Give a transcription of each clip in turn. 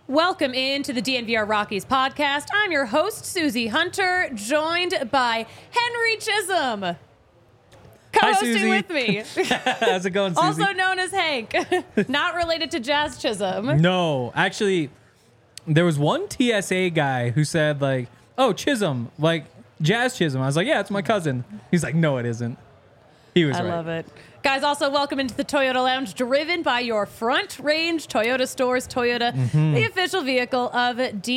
Welcome into the DNVR Rockies podcast. I'm your host, Susie Hunter, joined by Henry Chisholm, co-hosting with me. How's it going, Susie? Also known as Hank. Not related to Jazz Chisholm. No, actually, there was one TSA guy who said, like, oh, Chisholm, like Jazz Chisholm. I was like, yeah, it's my cousin. He's like, no, it isn't. He was right. I love it. Guys, also welcome into the Toyota Lounge, driven by your Front Range Toyota Stores. Toyota, the official vehicle of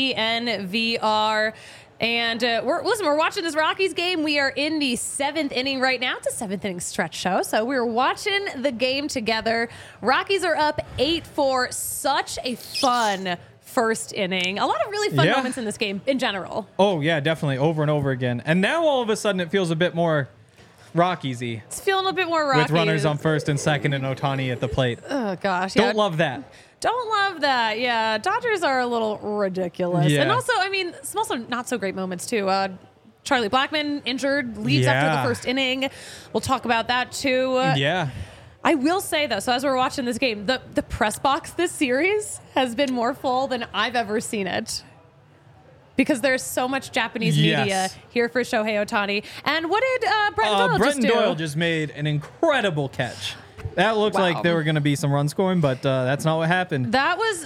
DNVR. And we're watching this Rockies game. We are in the 7th inning right now. It's a 7th inning stretch show, so we're watching the game together. Rockies are up 8-4. Such a fun first inning. A lot of really fun moments in this game in general. Oh, yeah, definitely. Over and over again. And now all of a sudden it feels a bit more Rockies-y. It's feeling a bit more Rockies. With runners on first and second and Ohtani at the plate. Oh, gosh. Don't love that. Don't love that. Yeah, Dodgers are a little ridiculous. Yeah. And also, I mean, some also not so great moments, too. Charlie Blackmon injured, leaves after the first inning. We'll talk about that, too. Yeah. I will say, though, so as we're watching this game, the press box this series has been more full than I've ever seen it. Because there's so much Japanese media here for Shohei Ohtani. And what did Brenton Doyle just do? Brenton Doyle just made an incredible catch. That looked like there were going to be some run scoring, but that's not what happened. That is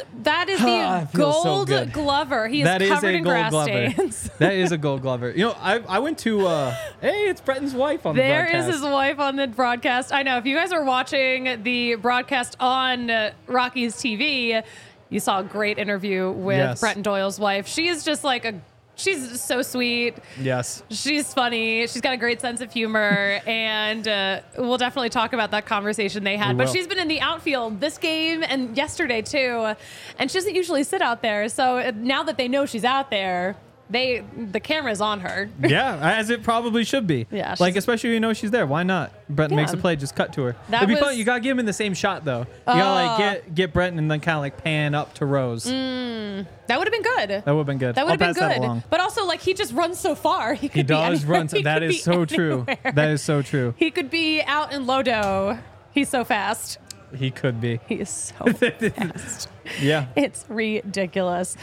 the Gold Glover. He is covered in grass stains. That is a Gold Glover. You know, I went to, hey, it's Brenton's wife on the broadcast. There is his wife on the broadcast. I know. If you guys are watching the broadcast on Rockies TV, you saw a great interview with Brenton Doyle's wife. She is just like she's so sweet. Yes. She's funny. She's got a great sense of humor. And we'll definitely talk about that conversation they had. But she's been in the outfield this game and yesterday, too. And she doesn't usually sit out there. So now that they know she's out there, the camera's on her. Yeah, as it probably should be. Yeah, like, especially when you know she's there. Why not? Brenton makes a play, just cut to her. It'd be fun. You got to get him in the same shot, though. You got to like get Brenton and then kind of like pan up to Rose. That would have been good. That would have been good. That would have been good. But also, like, he just runs so far. He does run. That is so true. That is so true. He could be out in Lodo. He's so fast. He could be. He is so fast. Yeah. It's ridiculous.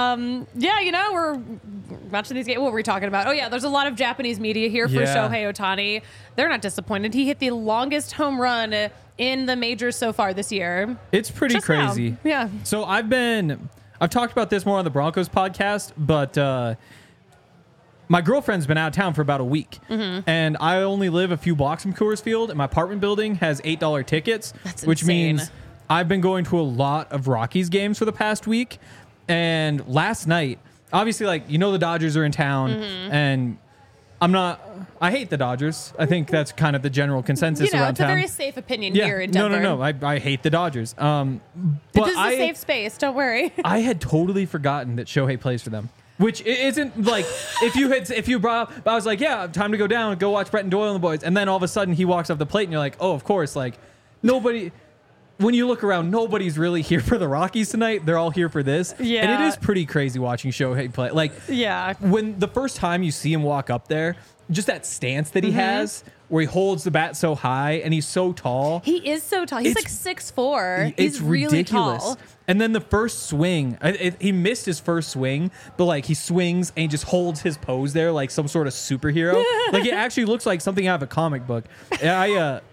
Yeah, you know, we're watching these games. What were we talking about? Oh, yeah, there's a lot of Japanese media here for Shohei Ohtani. They're not disappointed. He hit the longest home run in the majors so far this year. It's pretty crazy. Now. Yeah. So I've talked about this more on the Broncos podcast, but my girlfriend's been out of town for about a week, and I only live a few blocks from Coors Field, and my apartment building has $8 tickets, which means I've been going to a lot of Rockies games for the past week. And last night, obviously, like, you know, the Dodgers are in town, and I hate the Dodgers. I think that's kind of the general consensus around town. It's a very safe opinion here in Denver. No. I hate the Dodgers. But this is a safe space. Don't worry. I had totally forgotten that Shohei plays for them. Which isn't like, if you brought up, I was like, yeah, time to go down and go watch Brenton Doyle and the boys. And then all of a sudden he walks off the plate and you're like, oh, of course. Like, nobody, when you look around, nobody's really here for the Rockies tonight. They're all here for this. Yeah. And it is pretty crazy watching Shohei play. Like, when the first time you see him walk up there, just that stance that he has, where he holds the bat so high and he's so tall. He is so tall. He's like 6'4". He's really ridiculous. Tall. And then the first swing, he missed his first swing, but like he swings and he just holds his pose there like some sort of superhero. Like it actually looks like something out of a comic book. He had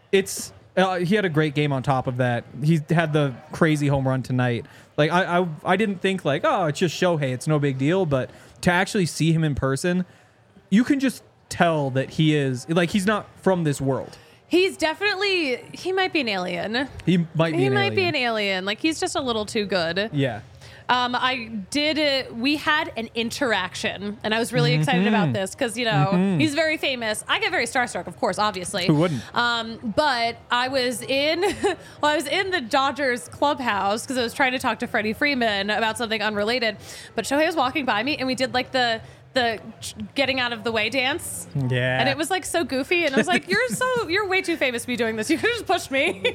a great game on top of that. He had the crazy home run tonight. Like I didn't think like, oh, it's just Shohei, it's no big deal. But to actually see him in person, you can just tell that he is like, he's not from this world. He might be an alien. He might be an alien. Like, he's just a little too good. Yeah. We had an interaction, and I was really excited about this because, you know, he's very famous. I get very starstruck, of course, obviously. Who wouldn't? But I was in the Dodgers clubhouse because I was trying to talk to Freddie Freeman about something unrelated. But Shohei was walking by me, and we did like the getting out of the way dance. Yeah. And it was like so goofy. And I was like, you're way too famous to be doing this. You could just push me.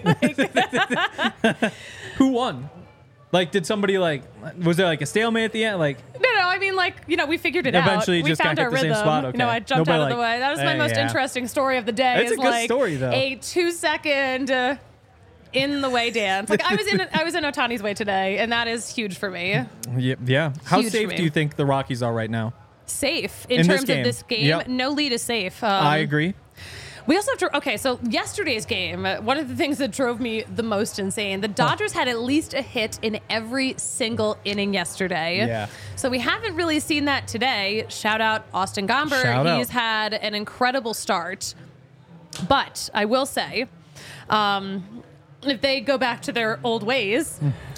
Who won? Like, did somebody was there like a stalemate at the end? Like, no. I mean, like, you know, we figured it out. Eventually, we just found got our the rhythm. same spot. Okay. You know, I jumped out of the way. That was my most interesting story of the day. It's a good story, though. A 2-second in the way dance. Like I was in Otani's way today, and that is huge for me. Yeah. How Huge for safe me. do you think the Rockies are right now? Safe In in this terms game. of this game. Yep. No lead is safe. I agree. We also have to. Okay, so yesterday's game, one of the things that drove me the most insane, the Dodgers had at least a hit in every single inning yesterday. Yeah. So we haven't really seen that today. Shout out Austin Gomber. Shout out. He's had an incredible start. But I will say, if they go back to their old ways,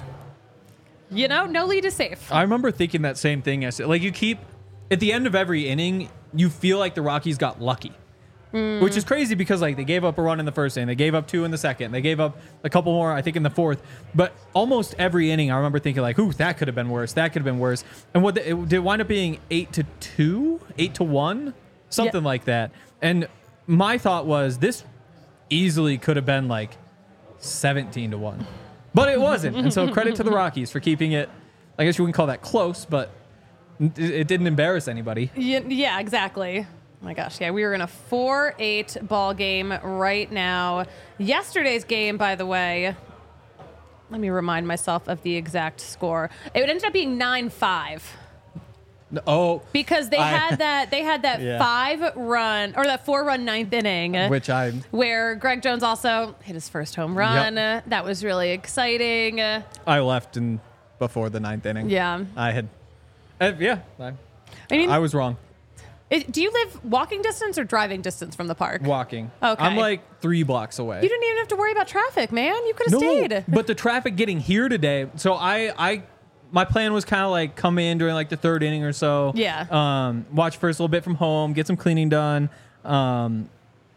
no lead is safe. I remember thinking that same thing yesterday. Like, you keep, at the end of every inning, you feel like the Rockies got lucky. Which is crazy because, like, they gave up a run in the first inning. They gave up 2 in the second. They gave up a couple more, I think, in the fourth. But almost every inning, I remember thinking, like, ooh, that could have been worse. That could have been worse. And it did wind up being 8-2, 8-1, something like that. And my thought was this easily could have been, like, 17-1. But it wasn't. And so credit to the Rockies for keeping it, I guess you wouldn't call that close, but it didn't embarrass anybody. Yeah, exactly. Oh my gosh, yeah, we were in a 4-8 ball game right now. Yesterday's game, by the way, let me remind myself of the exact score. It ended up being 9-5. Oh, Because they had that Yeah. 4-run ninth inning, which where Greg Jones also hit his first home run. That was really exciting. I left before the 9th inning. Yeah. I had, I mean, I was wrong. do you live walking distance or driving distance from the park? Walking. Okay. I'm like 3 blocks away. You didn't even have to worry about traffic, man. You could have stayed. But the traffic getting here today. So my plan was kind of like come in during like the 3rd inning or so. Yeah. Watch first a little bit from home, get some cleaning done. But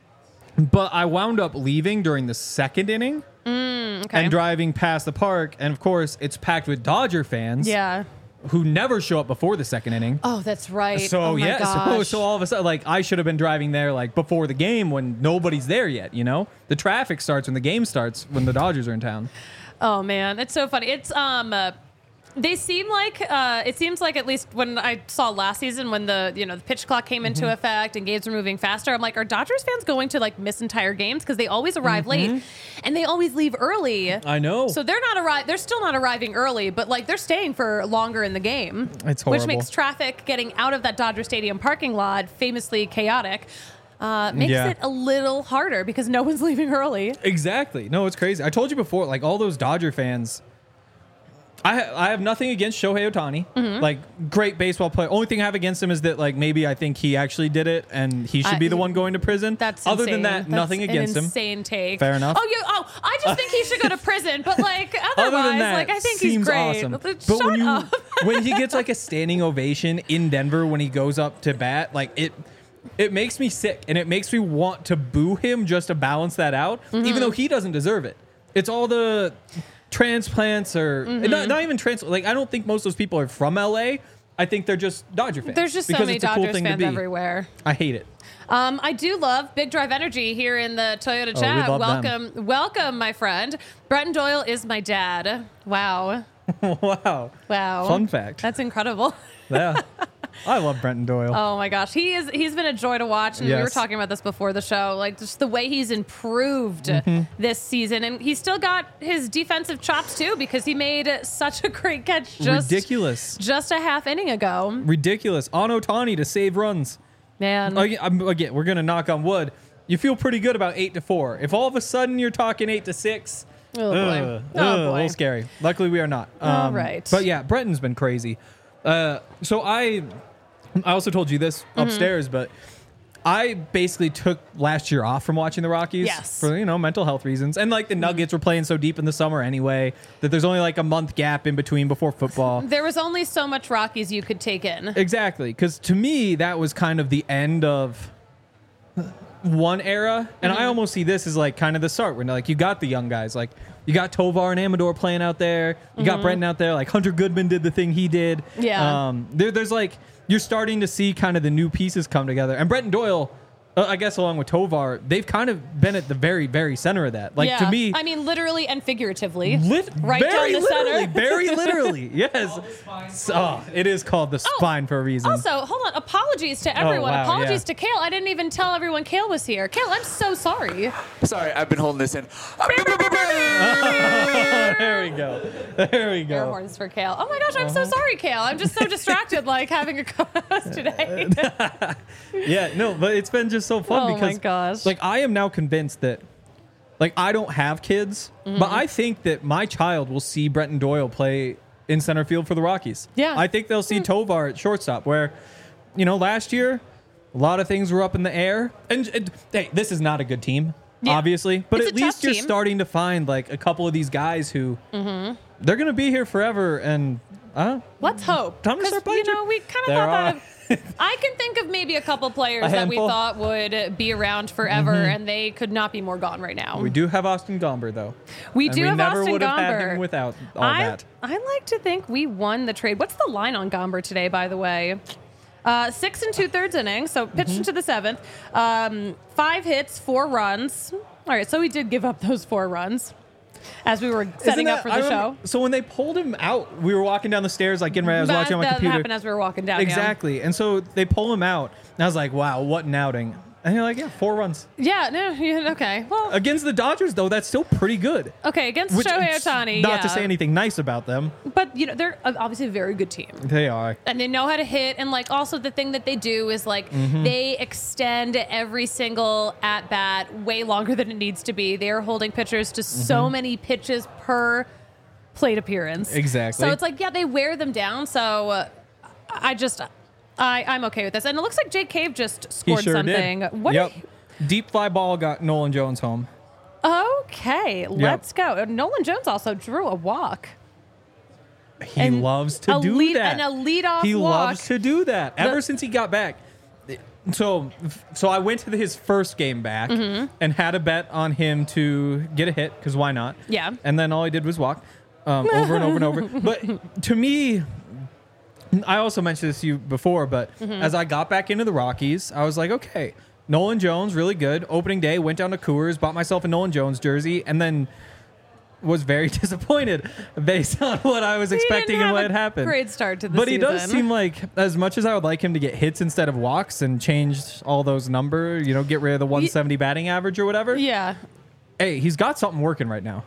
I wound up leaving during the 2nd inning. Okay. And driving past the park, and of course it's packed with Dodger fans. Yeah. Who never show up before the 2nd inning. Oh, that's right. So oh my gosh. so all of a sudden, like, I should have been driving there like before the game when nobody's there yet. The traffic starts when the game starts when the Dodgers are in town. Oh man, it's so funny. It's they seem like it seems like, at least when I saw last season, when the pitch clock came into effect and games were moving faster, I'm like, are Dodgers fans going to like miss entire games because they always arrive late and they always leave early? I know. So they're still not arriving early, but like they're staying for longer in the game. It's horrible. Which makes traffic getting out of that Dodger Stadium parking lot famously chaotic. Makes it a little harder because no one's leaving early. Exactly. No, it's crazy. I told you before, like, all those Dodger fans. I have nothing against Shohei Ohtani. Like, great baseball player. Only thing I have against him is that, like, maybe I think he actually did it and he should be the one going to prison. That's Other insane. than that, That's nothing against him. Insane take. Fair enough. I just think he should go to prison. But like otherwise, Other than that, like I think he's seems great. awesome. But But when up. when he gets like a standing ovation in Denver when he goes up to bat, like it makes me sick and it makes me want to boo him just to balance that out, even though he doesn't deserve it. It's all the transplants or not even transplants. Like, I don't think most of those people are from LA. I think they're just Dodger fans. There's just so because many it's a cool Dodgers thing to fans be. everywhere. I hate it. I do love Big Drive Energy here in the Toyota we chat. love Welcome, my friend. Bretton Doyle is my dad. Wow. Wow. Fun fact. That's incredible. Yeah. I love Brenton Doyle. Oh my gosh, he's been a joy to watch, and we were Yes. talking about this before the show, like just the way he's improved this season, and he's still got his defensive chops too because he made such a great catch Ridiculous. just a half inning ago. Ridiculous. On Ohtani to save runs. Man, Again, we're gonna knock on wood. You feel pretty good about 8-4. If all of a sudden you're talking 8-6, oh boy, a little scary. Luckily, we are not. All right. But yeah, Bretton's been crazy. So I also told you this upstairs, but I basically took last year off from watching the Rockies Yes. for mental health reasons, and like the Nuggets were playing so deep in the summer anyway that there's only like a month gap in between before football. There was only so much Rockies you could take in. Exactly, because to me that was kind of the end of one era, and I almost see this as like kind of the start when like you got the young guys, like you got Tovar and Amador playing out there, you got Brenton out there, like Hunter Goodman did the thing he did. Yeah. There's like you're starting to see kind of the new pieces come together, and Bretton Doyle I guess along with Tovar, they've kind of been at the very, very center of that. Like, to me, I mean, literally and figuratively. right down the center. Very literally. Yes. So, it is called the spine for a reason. Also, hold on. Apologies to everyone. wow, Apologies yeah. to Kale. I didn't even tell everyone Kale was here. Kale, I'm so sorry. Sorry, I've been holding this in. There we go. There we Air go. horns for Kale. Oh my gosh, I'm so sorry, Kale. I'm just so distracted, like having a co-host today. Yeah, no, but it's been just so fun Oh my because, gosh. like, I am now convinced that, like, I don't have kids, Mm-hmm. but I think that my child will see Brenton Doyle play in center field for the Rockies. Yeah. I think they'll see Tovar at shortstop, where, last year, a lot of things were up in the air. And hey, this is not a good team, Yeah. obviously, but It's at a tough least you're team. starting to find, like, a couple of these guys who they're going to be here forever, and Let's hope. Time to 'Cause, start playing. we kind of There thought are. that. I can think of maybe a couple players A that we handful. thought would be around forever, and they could not be more gone right now. We do have Austin Gomber, though. We And do have never Austin would have had Gomber. him without all I that. like to think we won the trade. What's the line on Gomber today, by the way? 6 2/3 innings, so pitched into the 7th. 5 hits, 4 runs. All right, so we did give up those 4 runs as we were setting Isn't up for that- the I show. remember- So when they pulled him out, we were walking down the stairs, like getting ready. I was watching on my that computer. happened as we were walking down. yeah. Exactly. And so they pull him out, and I was like, wow, what an outing. And you're like, yeah, 4 runs. Yeah, no, yeah, okay. Well, Against the Dodgers, though, that's still pretty good. okay, against Which, Shohei Ohtani, not yeah. to say anything nice about them. But, they're obviously a very good team. They are. And they know how to hit. And, like, also the thing that they do is, like, Mm-hmm. they extend every single at-bat way longer than it needs to be. They are holding pitchers to so many pitches per plate appearance. Exactly. So it's like, yeah, they wear them down. So I'm okay with this. And it looks like Jake Cave just He scored sure something. did. What? Yep. Deep fly ball got Nolan Jones home. Okay, let's go. Nolan Jones also drew a walk. He And loves to a do lead- that. and a leadoff He walk. loves to do that. Ever since he got back. So I went to his first game back and had a bet on him to get a hit, because why not? Yeah. And then all he did was walk over and over and over. But to me, I also mentioned this to you before, but as I got back into the Rockies, I was like, okay, Nolan Jones, really good. Opening day, went down to Coors, bought myself a Nolan Jones jersey, and then was very disappointed based on what I was expecting didn't and what have had a happened. great start to the But he does season. seem like, as much as I would like him to get hits instead of walks and change all those numbers, get rid of the 170 batting average or whatever. Yeah. Hey, he's got something working right now.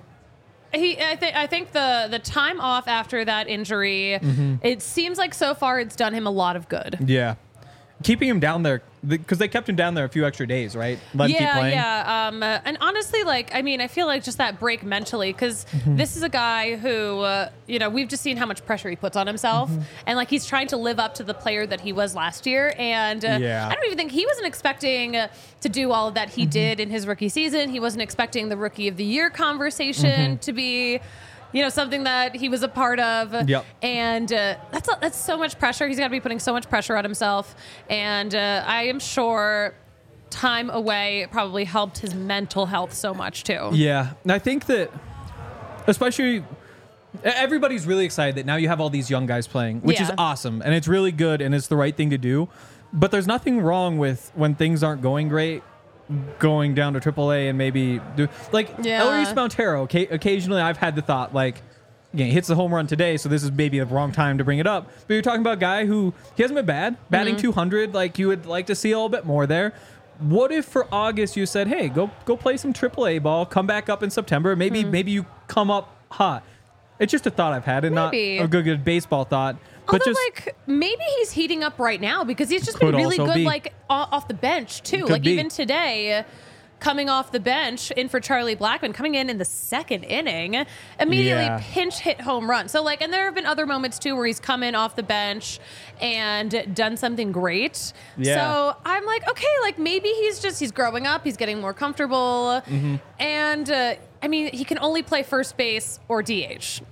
I think the time off after that injury, it seems like so far it's done him a lot of good. Yeah. Keeping him down there, because they kept him down there a few extra days, right? Let him keep playing. Yeah. And honestly, I feel like just that break mentally, because this is a guy who, we've just seen how much pressure he puts on himself, and like he's trying to live up to the player that he was last year. And Yeah. I don't even think he wasn't expecting to do all of that he did in his rookie season. He wasn't expecting the Rookie of the Year conversation to be. Something that he was a part of. Yep. And that's so much pressure. He's got to be putting so much pressure on himself. And I am sure time away probably helped his mental health so much too. Yeah. And I think that, especially, everybody's really excited that now you have all these young guys playing, which is Yeah. awesome. And it's really good and it's the right thing to do. But there's nothing wrong with when things aren't going great, going down to AAA and maybe do Yeah. Elrys Montero. Occasionally, I've had the thought he hits the home run today, so this is maybe the wrong time to bring it up. But you're talking about a guy who he hasn't been bad, batting 200. Like you would like to see a little bit more there. What if for August you said, "Hey, go play some AAA ball, come back up in September. Maybe you come up hot." It's just a thought I've had, and Maybe. not a good baseball thought. But Although, just maybe he's heating up right now because he's just been Could really also good, be. off the bench too. Could Like be. even today, coming off the bench in for Charlie Blackmon, coming in the second inning, immediately Yeah. pinch hit home run. So and there have been other moments too where he's come in off the bench and done something great. Yeah. So I'm like, okay, maybe he's growing up, he's getting more comfortable, and he can only play first base or DH.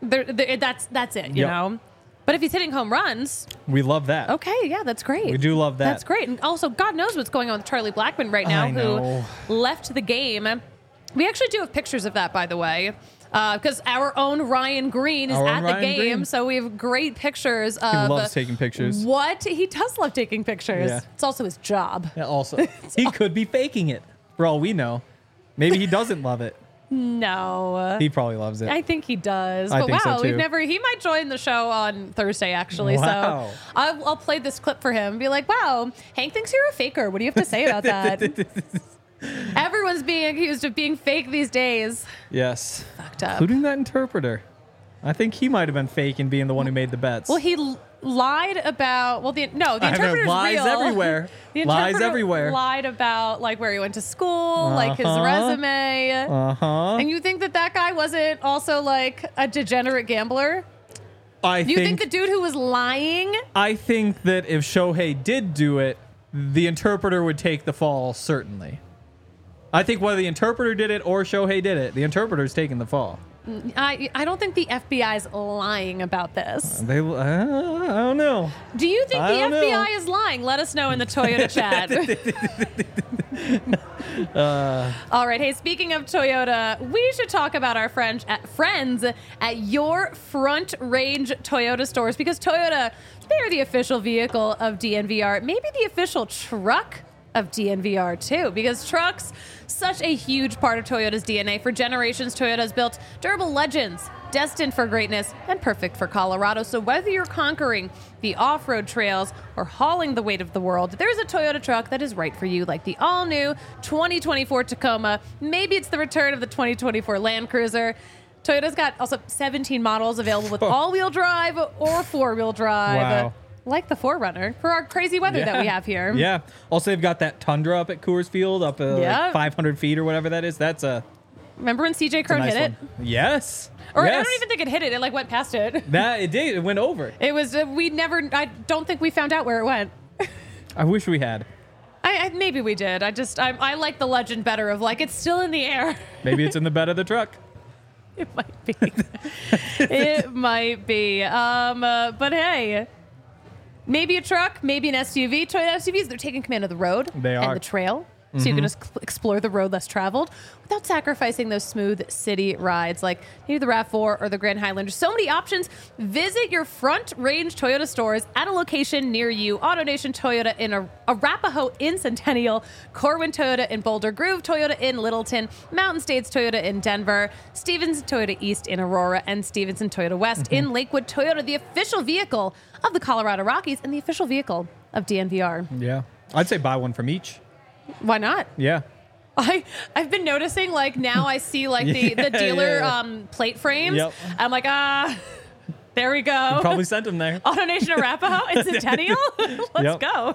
That's it, you Yep. know. But if he's hitting home runs, we love that. okay, yeah, that's great. We do love that. That's great. And also, God knows what's going on with Charlie Blackmon right now, I know. who left the game. We actually do have pictures of that, by the way. because our own Ryan Green is at the game, so we have great pictures of. He loves taking pictures. What he does love taking pictures. Yeah. It's also his job. Yeah, also, he could be faking it for all we know. Maybe he doesn't love it. No. He probably loves it. I think he does. I But think so, wow, too. we've never. He might join the show on Thursday, actually. Wow. So I'll play this clip for him and be like, wow, Hank thinks you're a faker. What do you have to say about that? Everyone's being accused of being fake these days. Yes. Fucked up. Including that interpreter. I think he might have been fake and being the one who made the bets. Well, he lied about. Well, the I know, interpreter's lies real. everywhere. The Lies interpreter everywhere. Lied about like where he went to school, like his resume. And you think that guy wasn't also like a degenerate gambler? I Do you think the dude who was lying? I think that if Shohei did do it, the interpreter would take the fall, certainly. I think whether the interpreter did it or Shohei did it, the interpreter's taking the fall. I don't think the FBI's lying about this. I don't know. Do you think the I don't FBI know. is lying? Let us know in the Toyota chat. All right. Hey, speaking of Toyota, we should talk about our friends at your Front Range Toyota stores, because Toyota, they're the official vehicle of DNVR, maybe the official truck of DNVR too, because trucks, such a huge part of Toyota's DNA. For generations, Toyota has built durable legends, destined for greatness and perfect for Colorado. So whether you're conquering the off-road trails or hauling the weight of the world, there's a Toyota truck that is right for you, like the all-new 2024 Tacoma. Maybe it's the return of the 2024 Land Cruiser. Toyota's got also 17 models available with all-wheel drive or four-wheel drive. Wow. Like the 4Runner for our crazy weather that we have here. Yeah. Also, they've got that Tundra up at Coors Field, up like 500 feet or whatever that is. That's a Remember when CJ Crone nice hit it? one. Yes. Or yes. I don't even think it hit it. It like went past it. That it did. It went over. It was. I don't think we found out where it went. I wish we had. Maybe we did. I like the legend better of like it's still in the air. Maybe it's in the bed of the truck. It might be. It might be. But hey. Maybe a truck, maybe an SUV. Toyota SUVs, they're taking command of the road They are. and the trail. So you can just explore the road less traveled without sacrificing those smooth city rides like maybe the RAV4 or the Grand Highlander. So many options. Visit your Front Range Toyota stores at a location near you. AutoNation Toyota in Arapahoe in Centennial, Corwin Toyota in Boulder, Groove Toyota in Littleton, Mountain States Toyota in Denver, Stevenson Toyota East in Aurora, and Stevenson Toyota West in Lakewood. Toyota, the official vehicle of the Colorado Rockies and the official vehicle of DNVR. Yeah. I'd say buy one from each. Why not? Yeah. I've been noticing, like, now I see, like, the dealer plate frames. Yep. I'm like, there we go. Probably sent them there. AutoNation Arapahoe in Centennial. Let's go.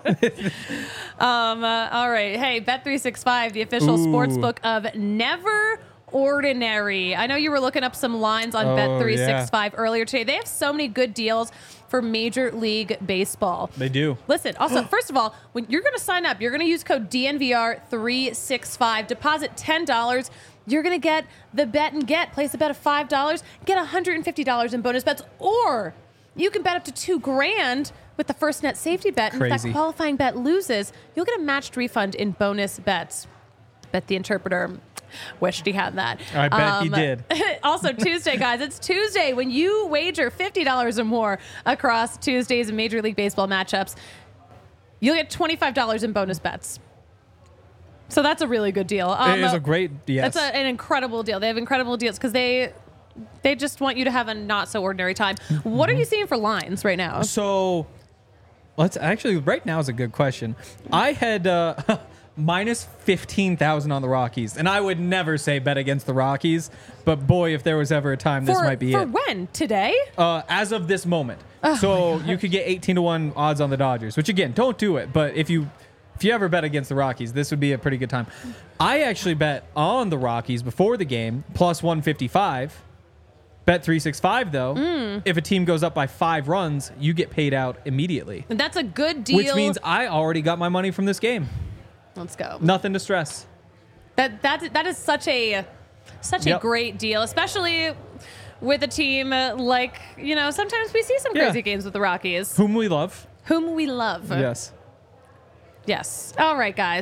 All right. Hey, Bet365, the official sportsbook of Never Ordinary. I know you were looking up some lines on Bet365 earlier today. They have so many good deals for Major League Baseball. They do. Listen, also, first of all, when you're going to sign up, you're going to use code DNVR365. Deposit $10. You're going to get the bet and get. Place a bet of $5. Get $150 in bonus bets. Or you can bet up to $2,000 with the first net safety bet. And if that qualifying bet loses, you'll get a matched refund in bonus bets. Bet the interpreter wished he had that. I bet he did. Also, Tuesday, guys. It's Tuesday. When you wager $50 or more across Tuesdays and Major League Baseball matchups, you'll get $25 in bonus bets. So that's a really good deal. It is a great, yes. That's an incredible deal. They have incredible deals because they just want you to have a not so ordinary time. What are you seeing for lines right now? So, right now is a good question. I had minus 15,000 on the Rockies, and I would never say bet against the Rockies, but boy, if there was ever a time, this might be it. For when? Today? As of this moment. So you could get 18-1 odds on the Dodgers, which again, don't do it, but if you ever bet against the Rockies, this would be a pretty good time. I actually bet on the Rockies before the game, plus 155. Bet 365, though, if a team goes up by 5 runs, you get paid out immediately. And that's a good deal. Which means I already got my money from this game. Let's go. Nothing to stress. That is such a great deal, especially with a team like, sometimes we see some crazy games with the Rockies. Whom we love. Whom we love. Yes. Yes. All right, guys.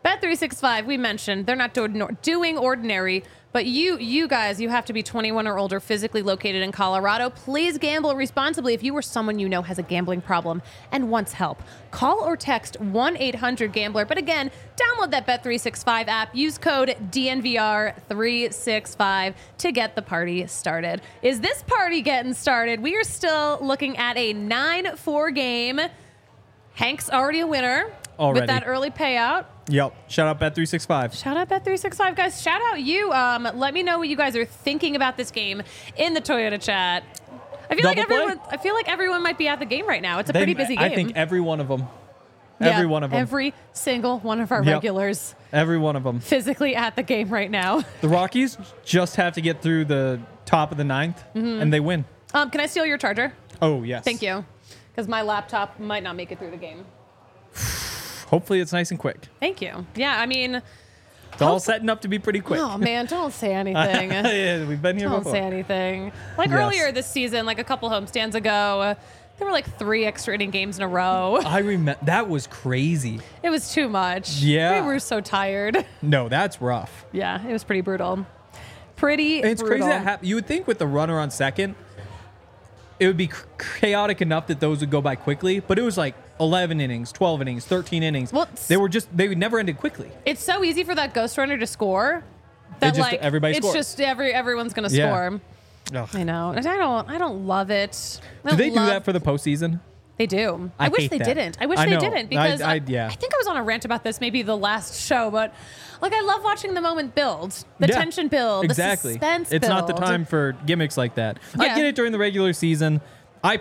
Bet365, we mentioned, they're not doing ordinary, but you guys, you have to be 21 or older, physically located in Colorado. Please gamble responsibly. If you or someone you know has a gambling problem and wants help, call or text 1-800-GAMBLER. But again, download that Bet365 app. Use code DNVR365 to get the party started. Is this party getting started? We are still looking at a 9-4 game. Hank's already a winner with that early payout. Yep. Shout out Bet365. Shout out Bet365, guys. Shout out you. Let me know what you guys are thinking about this game in the Toyota chat. I feel like everyone might be at the game right now. It's a pretty busy game. I think every one of them. Yeah, every one of them. Every single one of our regulars. Every one of them. Physically at the game right now. The Rockies just have to get through the top of the ninth, and they win. Can I steal your charger? Oh, yes. Thank you. Because my laptop might not make it through the game. Hopefully it's nice and quick. Thank you. Yeah, I mean... It's all setting up to be pretty quick. Oh, man, don't say anything. Yeah, we've been here before. Don't say anything. Like earlier this season, like a couple homestands ago, there were like 3 extra inning games in a row. I remember. That was crazy. It was too much. Yeah. We were so tired. No, that's rough. Yeah, it was pretty brutal. It's brutal. crazy that you would think with the runner on second, it would be chaotic enough that those would go by quickly, but it was like 11 innings, 12 innings, 13 innings. Well, they would never ended quickly. It's so easy for that ghost runner to score that everybody scores. It's just everyone's going to score. Ugh. I know. And I don't love it. Do they do that for the postseason? They do. I wish they didn't. I wish they didn't because I think I was on a rant about this maybe the last show, but like I love watching the moment build, the tension build, the suspense build. It's not the time for gimmicks like that. Yeah. I get it during the regular season. I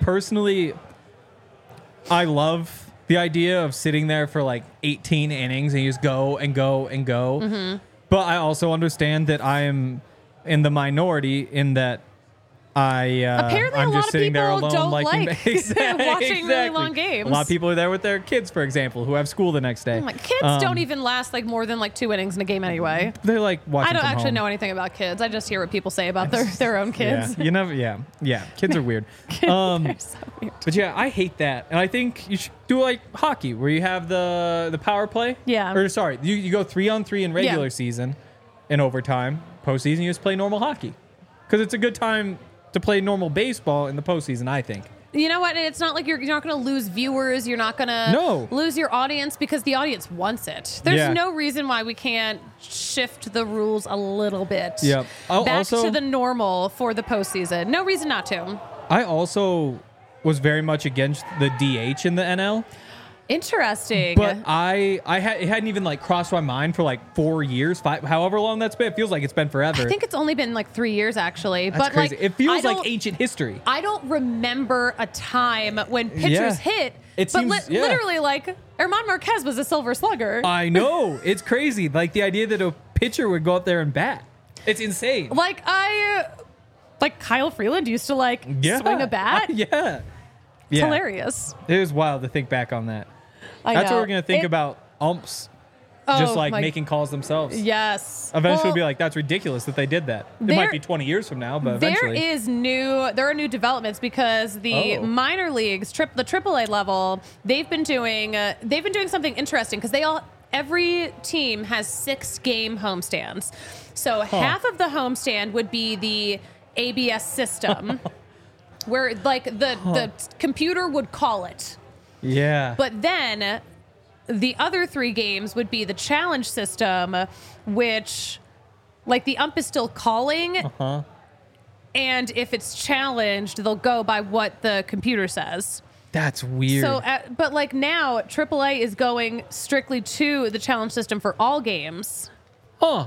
love the idea of sitting there for like 18 innings and you just go and go and go. Mm-hmm. But I also understand that I am in the minority in that apparently I'm a lot just of sitting there people alone, don't like watching really long games. A lot of people are there with their kids, for example, who have school the next day. Kids don't even last like more than like 2 innings in a game anyway. They're like watching. I don't from actually home. know anything about kids. I just hear what people say about their own kids. Yeah, you never. Yeah. Kids are weird. They're so weird. But yeah, I hate that, and I think you should do like hockey, where you have the power play. Yeah. Or sorry, you go 3-on-3 in regular season, in overtime. Postseason, you just play normal hockey, because it's a good time to play normal baseball in the postseason, I think. You know what? It's not like you're not going to lose viewers. You're not going to lose your audience because the audience wants it. There's no reason why we can't shift the rules a little bit back to the normal for the postseason. No reason not to. I also was very much against the DH in the NL. Interesting. But it hadn't even like crossed my mind for like 4 years, however long that's been. It feels like it's been forever. I think it's only been like 3 years actually. That's crazy. Like it feels like ancient history. I don't remember a time when pitchers hit. Literally like Herman Marquez was a silver slugger. I know. It's crazy. Like the idea that a pitcher would go out there and bat. It's insane. Like Kyle Freeland used to swing a bat. Yeah. It's hilarious. It was wild to think back on that. That's what we're going to think about umps. Just making calls themselves. Yes. Eventually we'll be like, that's ridiculous that they did that. It might be 20 years from now, but eventually. There are new developments because the minor leagues, the AAA level, they've been doing something interesting because every team has 6-game homestands. So half of the homestand would be the ABS system where like the computer would call it. Yeah. But then the other 3 games would be the challenge system, which like the ump is still calling. Uh-huh. And if it's challenged, they'll go by what the computer says. That's weird. So, but like now, AAA is going strictly to the challenge system for all games. Huh.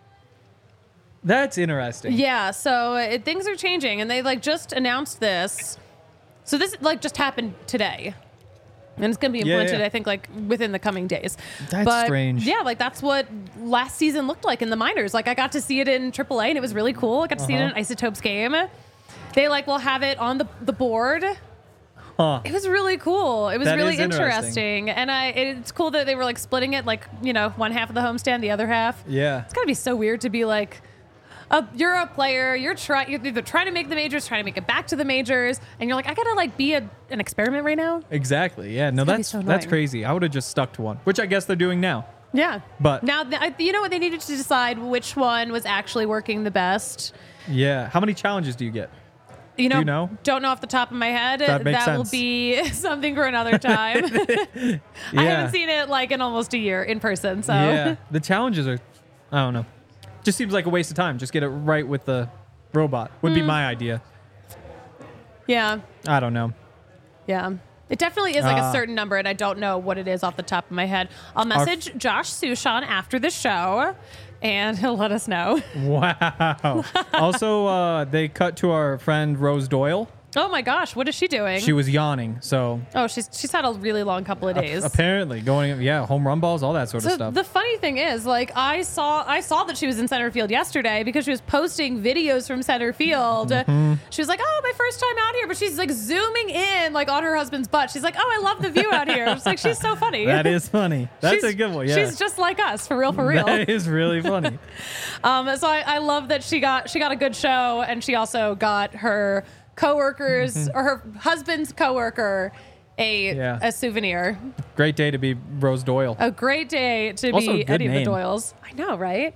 That's interesting. Yeah. So things are changing, and they like just announced this. So this like just happened today. And it's going to be implemented, I think, like within the coming days. That's strange. Yeah, like that's what last season looked like in the minors. Like I got to see it in AAA, and it was really cool. I got to see it in an Isotopes game. They will have it on the board. Huh. It was really cool. It was really interesting. And it's cool that they were like splitting it, like, one half of the homestand, the other half. Yeah. It's got to be so weird to be like, you're a player, you're either trying to make the majors, trying to make it back to the majors, and you're like, I gotta like be an experiment right now. Exactly. Yeah. No, that's crazy. I would have just stuck to one, which I guess they're doing now. Yeah. But- now, you know what? They needed to decide which one was actually working the best. Yeah. How many challenges do you get? You know, Do you know? Don't know off the top of my head. That makes will sense. be something for another time. I haven't seen it like in almost a year in person. So Yeah. The challenges are, I don't know. Just seems like a waste of time. Just get it right with the robot would be my idea. yeah. I don't know. Yeah. It definitely is like a certain number, and I don't know what it is off the top of my head. I'll message Josh Sushan after the show, and he'll let us know. Wow. Also, they cut to our friend Rose Doyle. Oh my gosh, what is she doing? She was yawning, so Oh, she's had a really long couple of days. apparently going, home run balls, all that sort of So stuff. the funny thing is, like, I saw that she was in center field yesterday because she was posting videos from center field. Mm-hmm. She was like, "Oh, my first time out here," but she's like zooming in like on her husband's butt. She's like, "Oh, I love the view out here." It's like she's so funny. That is funny. That's She's- a good one. Yeah, She's just like us, for real, for real. That is really funny. So I love that she got a good show, and she also got her coworkers Mm-hmm. or her husband's coworker a souvenir. Great day to be Rose Doyle. A great day to Also a be good Eddie the name. Doyles. I know, right?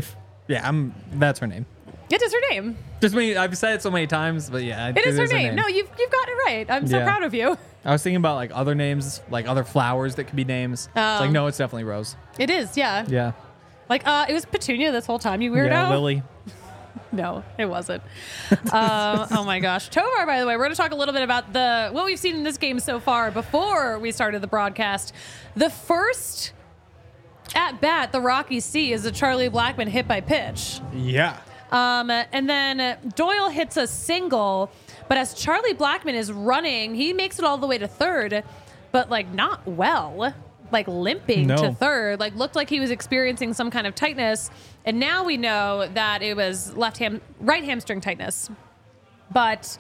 That's her name. It is her name. Just me. I've said it so many times, but yeah, It is her name. No, you've got it right. I'm so Yeah. proud of you. I was thinking about like other names, like other flowers that could be names. It's like, no, it's definitely Rose. It is, yeah. Yeah. Like, it was Petunia this whole time, you weirdo. Yeah, Lily. No, it wasn't. Oh my gosh. Tovar, by the way, we're going to talk a little bit about what we've seen in this game so far before we started the broadcast. The first at bat the Rockies see is a Charlie Blackmon hit by pitch. Yeah. And then Doyle hits a single, but as Charlie Blackmon is running, he makes it all the way to third, but like not well. Like limping to third, like looked like he was experiencing some kind of tightness. And now we know that it was right hamstring tightness. But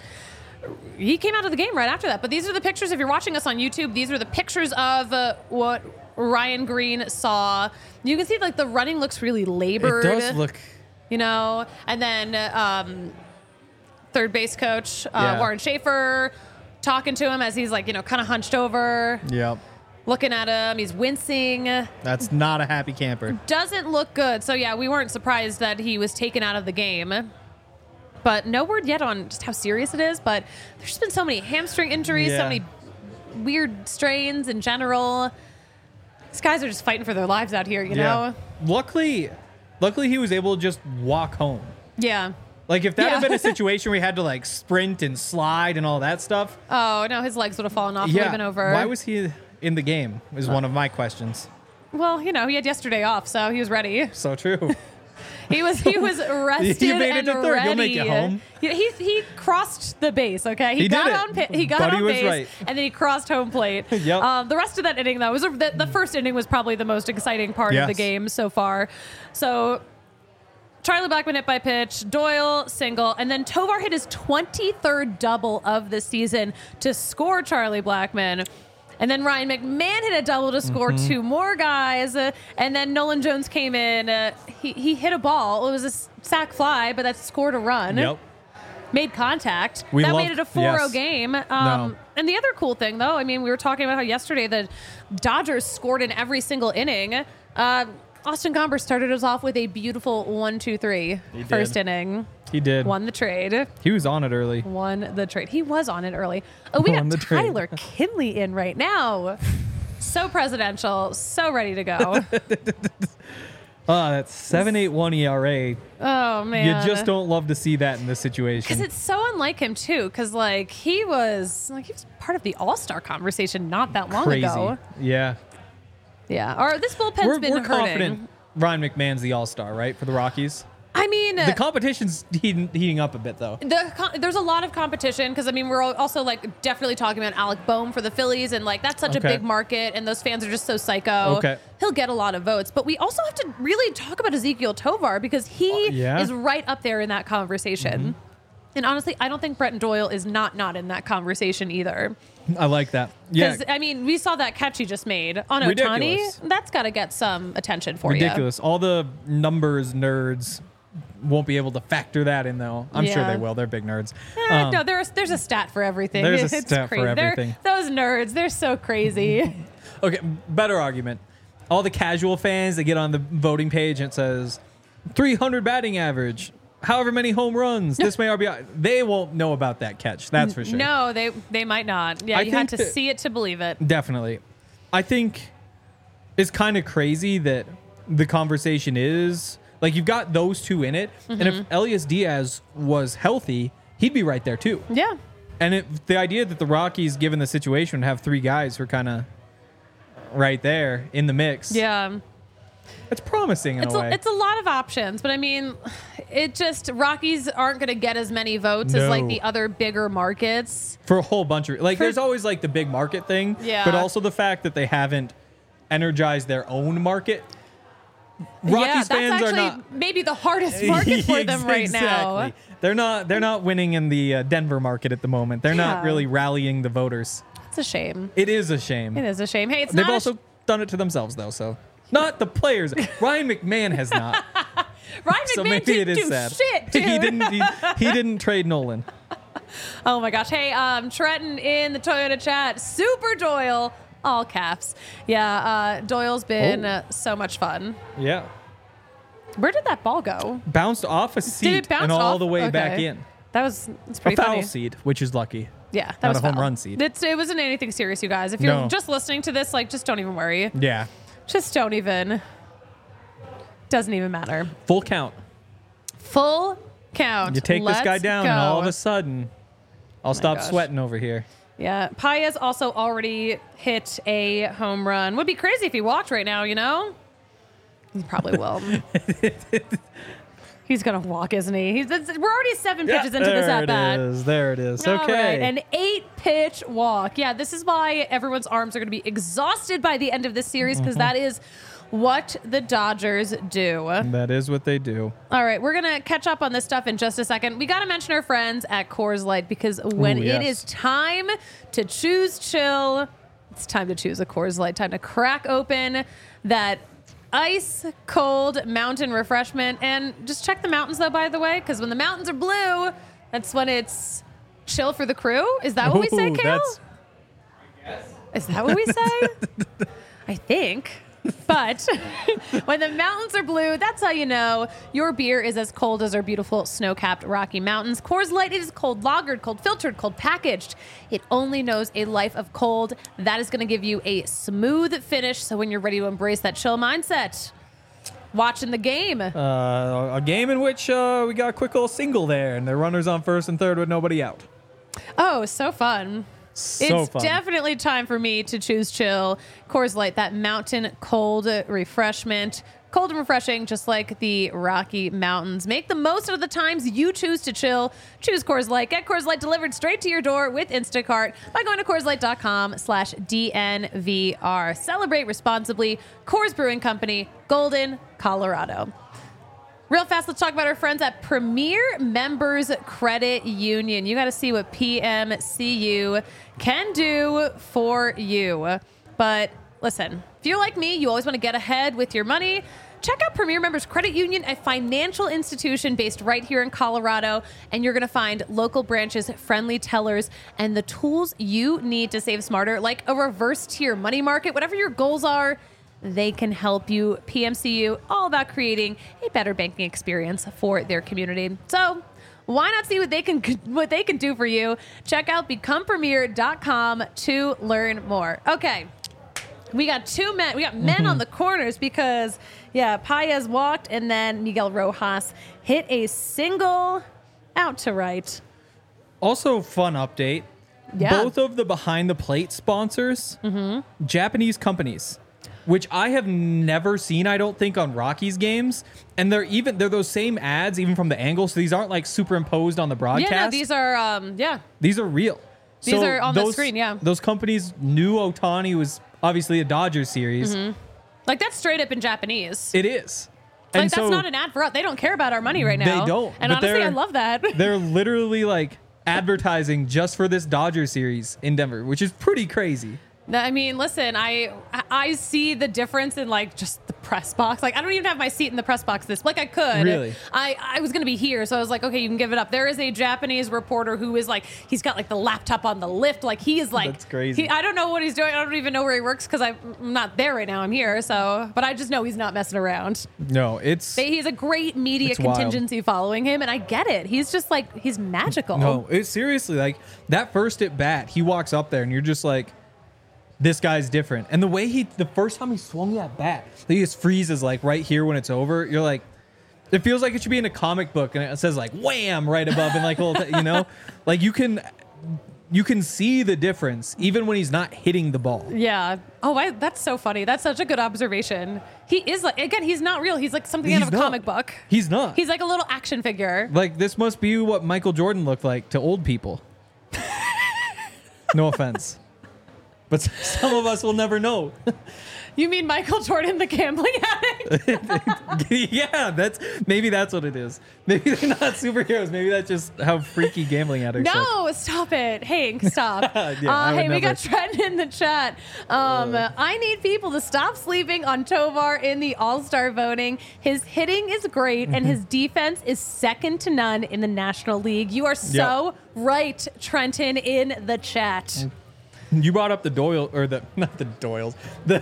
he came out of the game right after that. But these are the pictures. If you're watching us on YouTube, these are the pictures of what Ryan Green saw. You can see like the running looks really labored. It does look. You know, and then third base coach Warren Schaefer talking to him as he's like, kind of hunched over. Yep. Looking at him, he's wincing. That's not a happy camper. Doesn't look good. So yeah, we weren't surprised that he was taken out of the game. But no word yet on just how serious it is. But there's been so many hamstring injuries, so many weird strains in general. These guys are just fighting for their lives out here, you know? Luckily he was able to just walk home. Yeah. Like if that had been a situation where he had to like sprint and slide and all that stuff. Oh no, his legs would have fallen off, leaving over. Why was he in the game is one of my questions. Well, he had yesterday off, so he was ready. So true. He was rested You made it and to third. ready. You'll make it home. He crossed the base. Okay, He got did it. on he got Buddy on was base, right. and then he crossed home plate. Yep. The rest of that inning, though, the first inning was probably the most exciting part of the Yes. game so far. So Charlie Blackmon hit by pitch, Doyle single, and then Tovar hit his 23rd double of the season to score Charlie Blackmon. And then Ryan McMahon hit a double to score two more guys. And then Nolan Jones came in. He hit a ball. It was a sac fly, but that scored a run. Yep. Made contact. We that love- made it a 4-0 yes. game. No. And the other cool thing, though, I mean, we were talking about how yesterday the Dodgers scored in every single inning. Austin Gomber started us off with a beautiful 1-2-3 first did. inning. He did. Won the trade. He was on it early. Won the trade. He was on it early. Oh, we Won got the trade. Tyler Kinley in right now. So presidential. So ready to go. That's 7.81 ERA. Oh, man. You just don't love to see that in this situation. Because it's so unlike him, too. Because, he was part of the All-Star conversation not that long Crazy. ago. Yeah. Yeah. Or this bullpen's We're been hurting. confident Ryan McMahon's the all-star, right, for the Rockies? I mean, The competition's heating up a bit, though. there's a lot of competition because, I mean, we're also, definitely talking about Alec Boehm for the Phillies, and, that's such a Okay. big market, and those fans are just so psycho. Okay. He'll get a lot of votes. But we also have to really talk about Ezekiel Tovar because he Yeah. is right up there in that conversation. And honestly, I don't think Brett Doyle is not in that conversation either. I like that. Yeah. Because, I mean, we saw that catch he just made on Ohtani. Ridiculous. That's got to get some attention for you. Ridiculous. All the numbers nerds won't be able to factor that in, though. I'm sure Yeah. they will. They're big nerds. No, there's a stat for everything. There's a It's stat for crazy. everything. Those nerds, they're so crazy. Okay, better argument. all the casual fans, they get on the voting page and it says 300 batting average, however many home runs, this may RBI. They won't know about that catch. That's for sure. No, they might not. Yeah, you had to see it to believe it. Definitely. I think it's kind of crazy that the conversation is like you've got those two in it. And if Elias Diaz was healthy, he'd be right there too. Yeah. And the idea that the Rockies, given the situation, have three guys who are kind of right there in the mix. Yeah. It's promising in a way. It's a lot of options, but I mean, it just Rockies aren't going to get as many votes as like the other bigger markets for a whole bunch of there's always like the big market thing, but also the fact that they haven't energized their own market. Rockies fans that's are not maybe the hardest market for them right now. They're not winning in the Denver market at the moment. They're not really rallying the voters. It's a shame. It is a shame. It is a shame. Hey, they've also done it to themselves though, so. Not the players. Ryan McMahon has not. Ryan McMahon so maybe didn't it is do sad. shit, dude. He didn't trade Nolan. Oh my gosh. Hey, Trenton in the Toyota chat. Super Doyle, all caps. Yeah, Doyle's been so much fun. Yeah. Where did that ball go? Bounced off a seat and all the way back in. That's pretty a foul funny. seed, which is lucky. Yeah, that not was a home foul. run seed. It wasn't anything serious, you guys. If you're just listening to this, just don't even worry. Yeah. Just don't even. Doesn't even matter. Full count. Full count. You take this guy down, and all of a sudden, I'll stop sweating over here. Yeah. Paez also already hit a home run. Would be crazy if he walked right now, you know? He probably will. He's going to walk, isn't he? We're already 7 pitches into this at-bat. There it is. All Okay. Right. An 8-pitch walk. Yeah, this is why everyone's arms are going to be exhausted by the end of this series, because that is what the Dodgers do. That is what they do. All right, we're going to catch up on this stuff in just a second. We got to mention our friends at Coors Light, because when it is time to choose chill, it's time to choose a Coors Light. Time to crack open that ice cold mountain refreshment. And just check the mountains, though, by the way, because when the mountains are blue, that's when it's chill for the crew. Is that what we say, Kale? Is that what we say? I think. But when the mountains are blue, that's how you know your beer is as cold as our beautiful snow-capped Rocky Mountains. Coors Light is cold lagered, cold filtered, cold packaged. It only knows a life of cold. That is going to give you a smooth finish. So when you're ready to embrace that chill mindset, watching the game. A game in which we got a quick little single there, and the runners on first and third with nobody out. Oh, so fun. It's definitely time for me to choose chill. Coors Light, that mountain cold refreshment. Cold and refreshing, just like the Rocky Mountains. Make the most of the times you choose to chill. Choose Coors Light. Get Coors Light delivered straight to your door with Instacart by going to CoorsLight.com/DNVR. Celebrate responsibly. Coors Brewing Company, Golden, Colorado. Real fast, let's talk about our friends at Premier Members Credit Union. You got to see what PMCU can do for you. But listen, if you're like me, you always want to get ahead with your money. Check out Premier Members Credit Union, a financial institution based right here in Colorado. And you're going to find local branches, friendly tellers, and the tools you need to save smarter, like a reverse tier money market, whatever your goals are. They can help you. PMCU, all about creating a better banking experience for their community. So why not see what they can do for you? Check out becomepremier.com to learn more. Okay, we got two men. We got men on the corners because, Paez walked and then Miguel Rojas hit a single out to right. Also, fun update. Yeah. Both of the behind the plate sponsors, Japanese companies, which I have never seen, I don't think, on Rockies games. And they're those same ads, even from the angle. So these aren't like superimposed on the broadcast. Yeah, no, these are, These are real. These are on the screen, yeah. Those companies knew Ohtani was obviously a Dodgers series. Like, that's straight up in Japanese. It is. Like, and that's not an ad for us. They don't care about our money right now. They don't. And honestly, I love that. They're literally like advertising just for this Dodger series in Denver, which is pretty crazy. I mean, listen, I see the difference in like just the press box. Like I don't even have my seat in the press box I could. Really? I was going to be here. So I was like, okay, you can give it up. There is a Japanese reporter who is like, he's got like the laptop on the lift. Like he is like, That's crazy. I don't know what he's doing. I don't even know where he works because I'm not there right now. I'm here. So, but I just know he's not messing around. No, he's a great media It's wild. contingency following him. And I get it. He's just like, he's magical. No, it's seriously like that first at bat, he walks up there and you're just like, this guy's different. And the way the first time he swung that bat, he just freezes like right here when it's over. You're like, it feels like it should be in a comic book and it says like wham right above and like, like you can see the difference even when he's not hitting the ball. Yeah. Oh, that's so funny. That's such a good observation. He is like, again, he's not real. He's like something out of a comic book. He's not. He's like a little action figure. Like this must be what Michael Jordan looked like to old people. No offense. But some of us will never know. You mean Michael Jordan, the gambling addict? Yeah, maybe that's what it is. Maybe they're not superheroes. Maybe that's just how freaky gambling addicts are. No, stop it. Hank, stop. Yeah, hey, we got Trent in the chat. I need people to stop sleeping on Tovar in the All-Star voting. His hitting is great, and his defense is second to none in the National League. You are so right, Trenton, in the chat. You brought up the Doyle or not the Doyles, the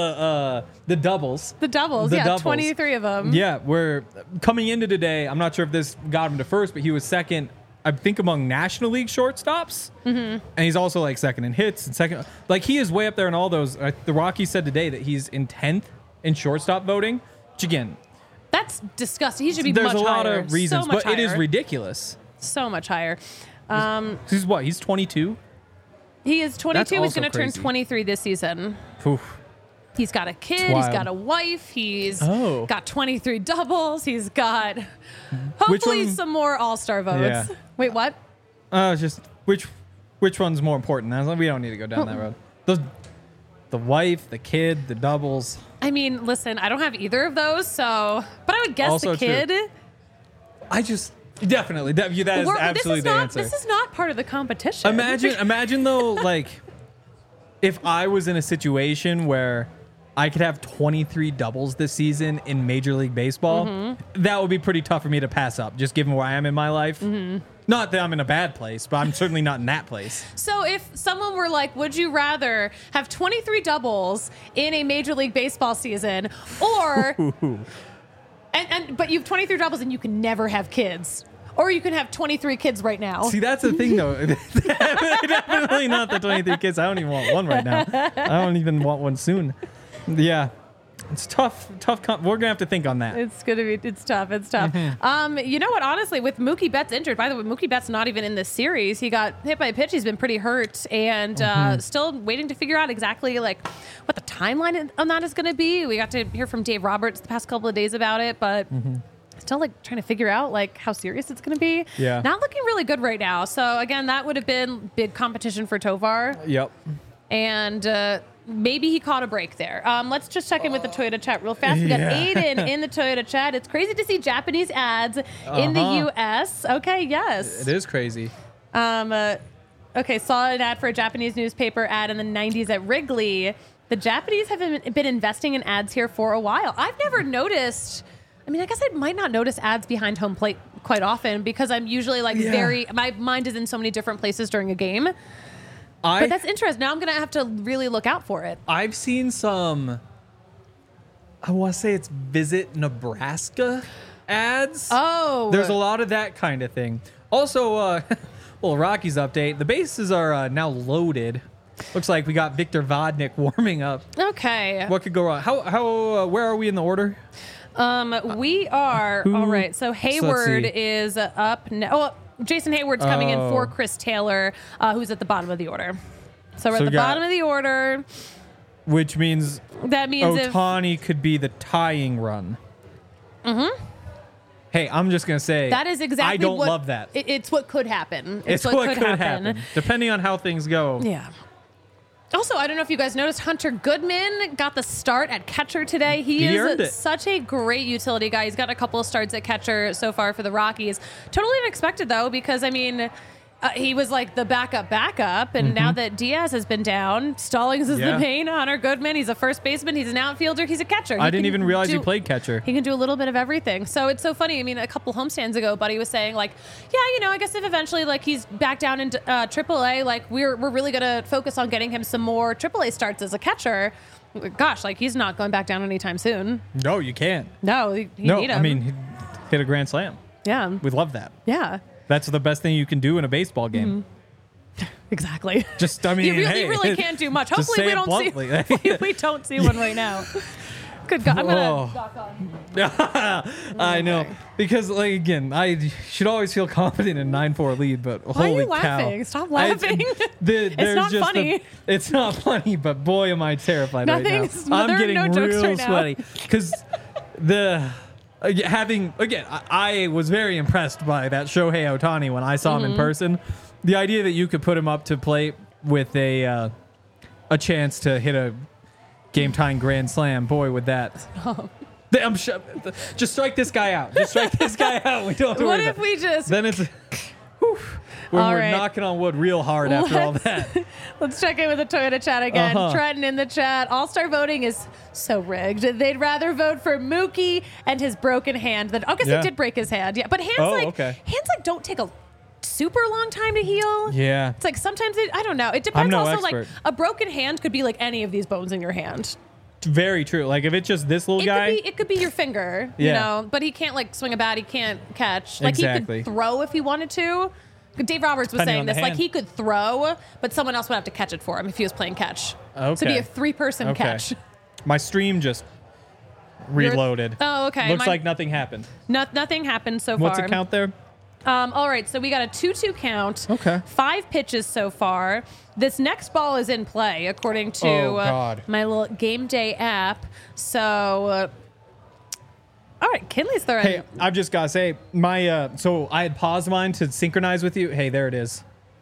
doubles. The doubles, doubles. 23 of them. Yeah, we're coming into today. I'm not sure if this got him to first, but he was second, I think, among National League shortstops. Mm-hmm. And he's also like second in hits and second. Like he is way up there in all those. The Rockies said today that he's in 10th in shortstop voting, which again, that's disgusting. He should be much higher. There's a lot of reasons, so much but higher. it is ridiculous. So much higher. He's what? He's 22. He is 22. He's going to turn crazy. 23 this season. Oof. He's got a kid. He's got a wife. He's got 23 doubles. He's got hopefully some more All-Star votes. Yeah. Wait, what? Just which one's more important? We don't need to go down that road. The wife, the kid, the doubles. I mean, listen, I don't have either of those, so but I would guess Also the kid. True. Definitely. That is absolutely the answer. This is not part of the competition. Imagine though, like, if I was in a situation where I could have 23 doubles this season in Major League Baseball, that would be pretty tough for me to pass up, just given where I am in my life. Not that I'm in a bad place, but I'm certainly not in that place. So if someone were like, would you rather have 23 doubles in a Major League Baseball season or... but you have 23 doubles and you can never have kids. Or you can have 23 kids right now. See, that's the thing, though. Definitely not the 23 kids. I don't even want one right now. I don't even want one soon. Yeah. It's tough. We're going to have to think on that. It's tough. You know what? Honestly, with Mookie Betts injured, by the way, Mookie Betts not even in this series. He got hit by a pitch. He's been pretty hurt and still waiting to figure out exactly like what the timeline on that is going to be. We got to hear from Dave Roberts the past couple of days about it, but still like trying to figure out like how serious it's going to be. Yeah. Not looking really good right now. So again, that would have been big competition for Tovar. Yep. And maybe he caught a break there. Let's just check in with the Toyota chat real fast. We got Aiden in the Toyota chat. It's crazy to see Japanese ads in the U.S. Okay, yes. It is crazy. Okay, saw an ad for a Japanese newspaper ad in the 90s at Wrigley. The Japanese have been investing in ads here for a while. I've never noticed... I mean, I guess I might not notice ads behind home plate quite often because I'm usually like my mind is in so many different places during a game. But that's interesting. Now I'm going to have to really look out for it. I've seen some, I want to say it's Visit Nebraska ads. Oh. There's a lot of that kind of thing. Also, well, Rockies update. The bases are now loaded. Looks like we got Victor Vodnik warming up. Okay. What could go wrong? Where are we in the order? We are all right. So Hayward is up now. Oh, Jason Hayward's coming in for Chris Taylor, who's at the bottom of the order. So we're at the bottom of the order. Which means Ohtani if could be the tying run. Mm-hmm. Hey, I'm just going to say that is exactly I don't love that. It's what could happen. It's what could happen. Depending on how things go. Yeah. Also, I don't know if you guys noticed, Hunter Goodman got the start at catcher today. He is such a great utility guy. He's got a couple of starts at catcher so far for the Rockies. Totally unexpected, though, because, I mean, He was like the backup, and now that Diaz has been down, Stallings is the main. Hunter Goodman, he's a first baseman, he's an outfielder, he's a catcher. I didn't even realize he played catcher. He can do a little bit of everything. So it's so funny. I mean, a couple homestands ago, Buddy was saying like, yeah, I guess if eventually like he's back down into AAA, like we're really gonna focus on getting him some more AAA starts as a catcher. Gosh, like he's not going back down anytime soon. No, you can't. No, you need him. I mean, he hit a grand slam. Yeah, we love that. Yeah. That's the best thing you can do in a baseball game. Exactly. Just, I mean, you really can't do much. Hopefully we don't see one right now. Good God, I'm gonna knock on. I know, because like again, I should always feel confident in 9-4 lead, but why holy are you laughing? cow! Stop laughing. It's not funny. It's not funny, but boy, am I terrified right now. I'm getting no jokes real right now. sweaty because I was very impressed by that Shohei Ohtani when I saw him in person. The idea that you could put him up to plate with a chance to hit a game-tying grand slam, boy, would that. Just strike this guy out. Just strike this guy out. We don't have to What worry if about we just... Then it's... When All we're right. knocking on wood real hard after all that. Let's check in with the Toyota chat again. Trenton in the chat. All-star voting is so rigged. They'd rather vote for Mookie and his broken hand than... I guess he did break his hand. Yeah, but hands don't take a super long time to heal. Yeah. It's like sometimes I don't know. It depends. I'm no also expert. Like a broken hand could be like any of these bones in your hand. Very true. Like if it's just this little guy, it could be your finger, you know, but he can't like swing a bat, he can't catch. Like Exactly. he could throw if he wanted to. Dave Roberts was Depending saying on the this, like hand. he could throw, but someone else would have to catch it for him if he was playing catch. Okay. So it'd be a 3-person catch. My stream just reloaded. Oh, okay. Looks like nothing happened. Nothing happened so far. What's it count there? All right, so we got a 2-2 count. Okay. 5 pitches so far. This next ball is in play, according to my little game day app. So, all right, Kinley's throwing. Hey, I've just got to say, so I had paused mine to synchronize with you. Hey, there it is.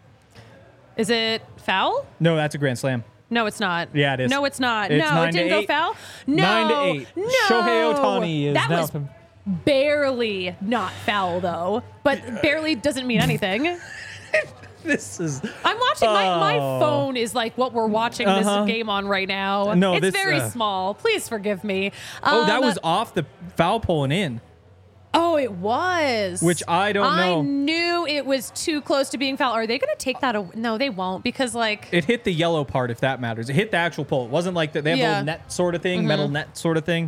Is it foul? No, that's a grand slam. No, it's not. Yeah, it is. No, it's not. It's no, it didn't go foul. No. 9-8. No. Shohei Ohtani is that now. was barely not foul, though. But barely doesn't mean anything. This is. I'm watching. My phone is like what we're watching this game on right now. No, it's this, very small. Please forgive me. That was off the foul pole and in. Oh, it was. Which I don't know. I knew it was too close to being foul. Are they going to take that away? No, they won't, because like It hit the yellow part, if that matters. It hit the actual pole. It wasn't like that. They have a little net sort of thing, metal net sort of thing.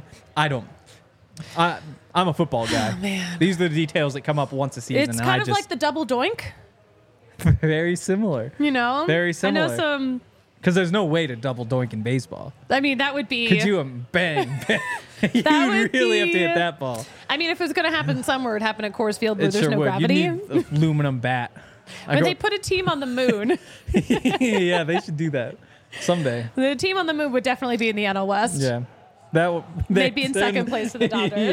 I'm a football guy. Oh, man. These are the details that come up once a season. it's kind of like the double doink. Very similar. You know, Very similar. I know some. Because there's no way to double doink in baseball. I mean, that would be. Could you bang? You would really have to be- hit that ball. I mean, if it was going to happen somewhere, it'd happen at Coors Field where It there's sure no would. gravity. You need aluminum bat. When they put a team on the moon, Yeah, they should do that someday. the team on the moon would definitely be in the NL West. Yeah. They'd be in second place to the Dodgers.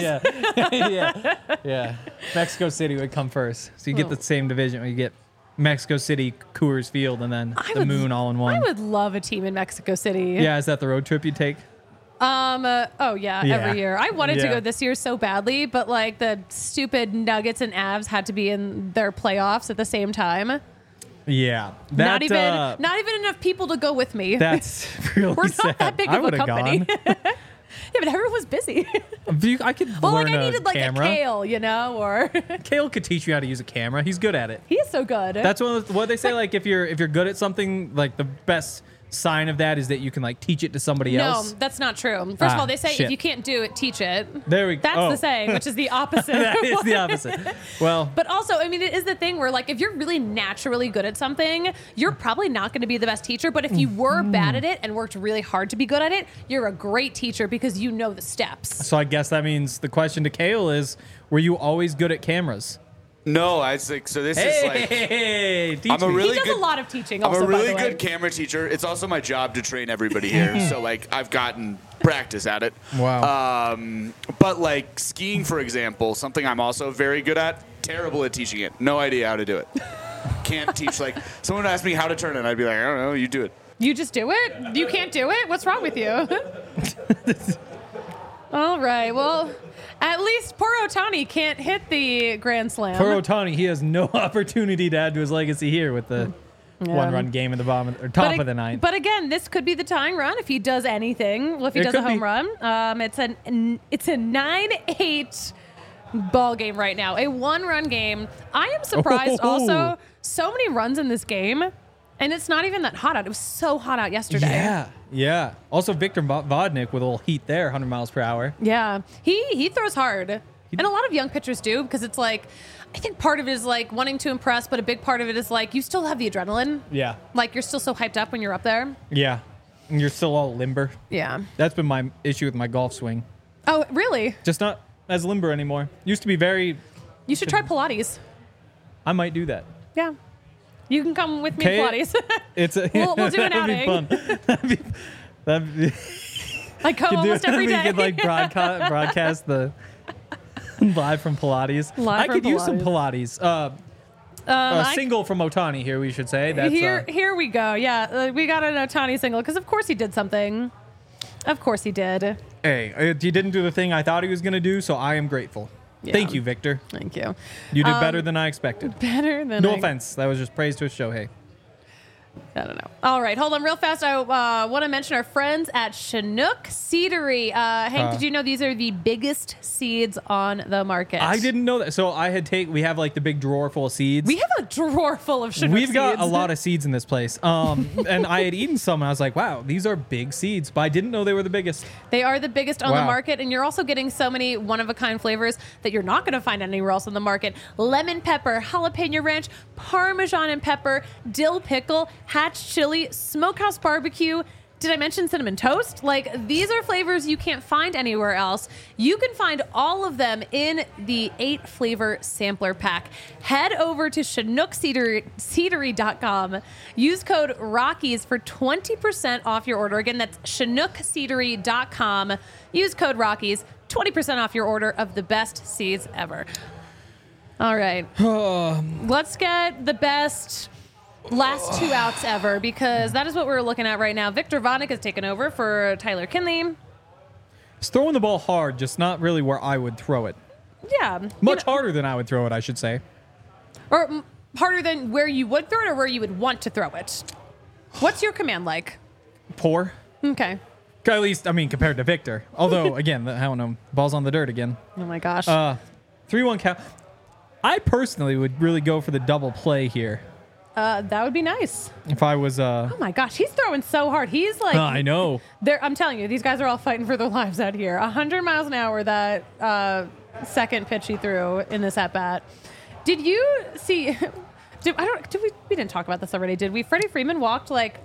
yeah. Mexico City would come first. So you get the same division where you get Mexico City, Coors Field, and then moon all in one. I would love a team in Mexico City. Yeah, is that the road trip you take? Every year. I wanted to Yeah. go this year so badly, but like the stupid Nuggets and Avs had to be in their playoffs at the same time. Yeah. Not even enough people to go with me. That's really We're sad. not that big I of a would have company. gone. Yeah, but everyone was busy. I could Well, learn like I needed like camera. a Kale, you know, or Kale could teach you how to use a camera. He's good at it. he's so good. That's what they say. Like if you're good at something, like the best sign of that is that you can like teach it to somebody no, else. that's not true. First of all, they say shit. if you can't do it, teach it. There we go. That's the saying, which is the opposite. That is the opposite. Well, But also, I mean, it is the thing where, like, if you're really naturally good at something, you're probably not going to be the best teacher. But if you were bad at it and worked really hard to be good at it, you're a great teacher because you know the steps. so I guess that means the question to Kale is: were you always good at cameras? No, I was like, so this is like, Hey, teach I'm a me. really He does good- a lot of teaching. I'm Also, a really by the way. good camera teacher. It's also my job to train everybody here. So like, I've gotten practice at it. Wow. But like skiing, for example, something I'm also very good at. Terrible at teaching it. No idea how to do it. Can't teach. Like someone asked me how to turn it, I'd be like, I don't know. You do it. You just do it? You can't do it? What's wrong with you? All right. Well, At least poor Ohtani can't hit the grand slam. For Ohtani, he has no opportunity to add to his legacy here with the one-run game in the bottom or top of the ninth. But again, this could be the tying run if he does anything. Well, if he does a home run, it's a 9-8 ball game right now, a one-run game. I am surprised. Also, so many runs in this game, and it's not even that hot out. It was so hot out yesterday. Yeah. Also, Victor Vodnik with a little heat there, 100 miles per hour. Yeah, he throws hard, and a lot of young pitchers do because it's like. I think part of it is like wanting to impress, but a big part of it is like you still have the adrenaline. Yeah. Like you're still so hyped up when you're up there. Yeah. And you're still all limber. Yeah. That's been my issue with my golf swing. Oh, really? Just not as limber anymore. Used to be very... You should try Pilates. I might do that. Yeah. You can come with me to Pilates. We'll do an outing. That'd be I go almost every day. You could like broadcast the... live from Pilates. I could use some Pilates. A single from Ohtani here, we should say. That's, here we go. Yeah, we got an Ohtani single because of course he did something. Of course he did. Hey, he didn't do the thing I thought he was going to do, so I am grateful. Yeah. Thank you, Victor. Thank you. You did better than I expected. Better than No offense. That was just praise to Shohei. I don't know. All right, hold on real fast. I want to mention our friends at Chinook Seedery. Hank, did you know these are the biggest seeds on the market? I didn't know that. So we have like the big drawer full of seeds. We have a drawer full of Chinook seeds. We've got a lot of seeds in this place. And I had eaten some and I was like, wow, these are big seeds, but I didn't know they were the biggest. They are the biggest on the market, and you're also getting so many one-of-a-kind flavors that you're not going to find anywhere else on the market. Lemon pepper, jalapeno ranch, Parmesan and pepper, dill pickle, hatch chili, smokehouse barbecue. Did I mention cinnamon toast? Like, these are flavors you can't find anywhere else. You can find all of them in the 8-flavor sampler pack. Head over to ChinookSeedery.com. Use code Rockies for 20% off your order. Again, that's ChinookSeedery.com. Use code Rockies, 20% off your order of the best seeds ever. All right. Let's get the best last 2 outs ever, because that is what we're looking at right now. Victor Vodnik has taken over for Tyler Kinley. He's throwing the ball hard, just not really where I would throw it. Yeah. Much harder than I would throw it, I should say. Or harder than where you would throw it or where you would want to throw it. What's your command like? Poor. Okay. At least, I mean, compared to Victor. Although, again, I don't know. Ball's on the dirt again. Oh, my gosh. 3-1 count. I personally would really go for the double play here. That would be nice. If I was... oh, my gosh. He's throwing so hard. He's like... I know. I'm telling you, these guys are all fighting for their lives out here. 100 miles an hour, that second pitch he threw in this at-bat. Did you see... we didn't talk about this already, did we? Freddie Freeman walked like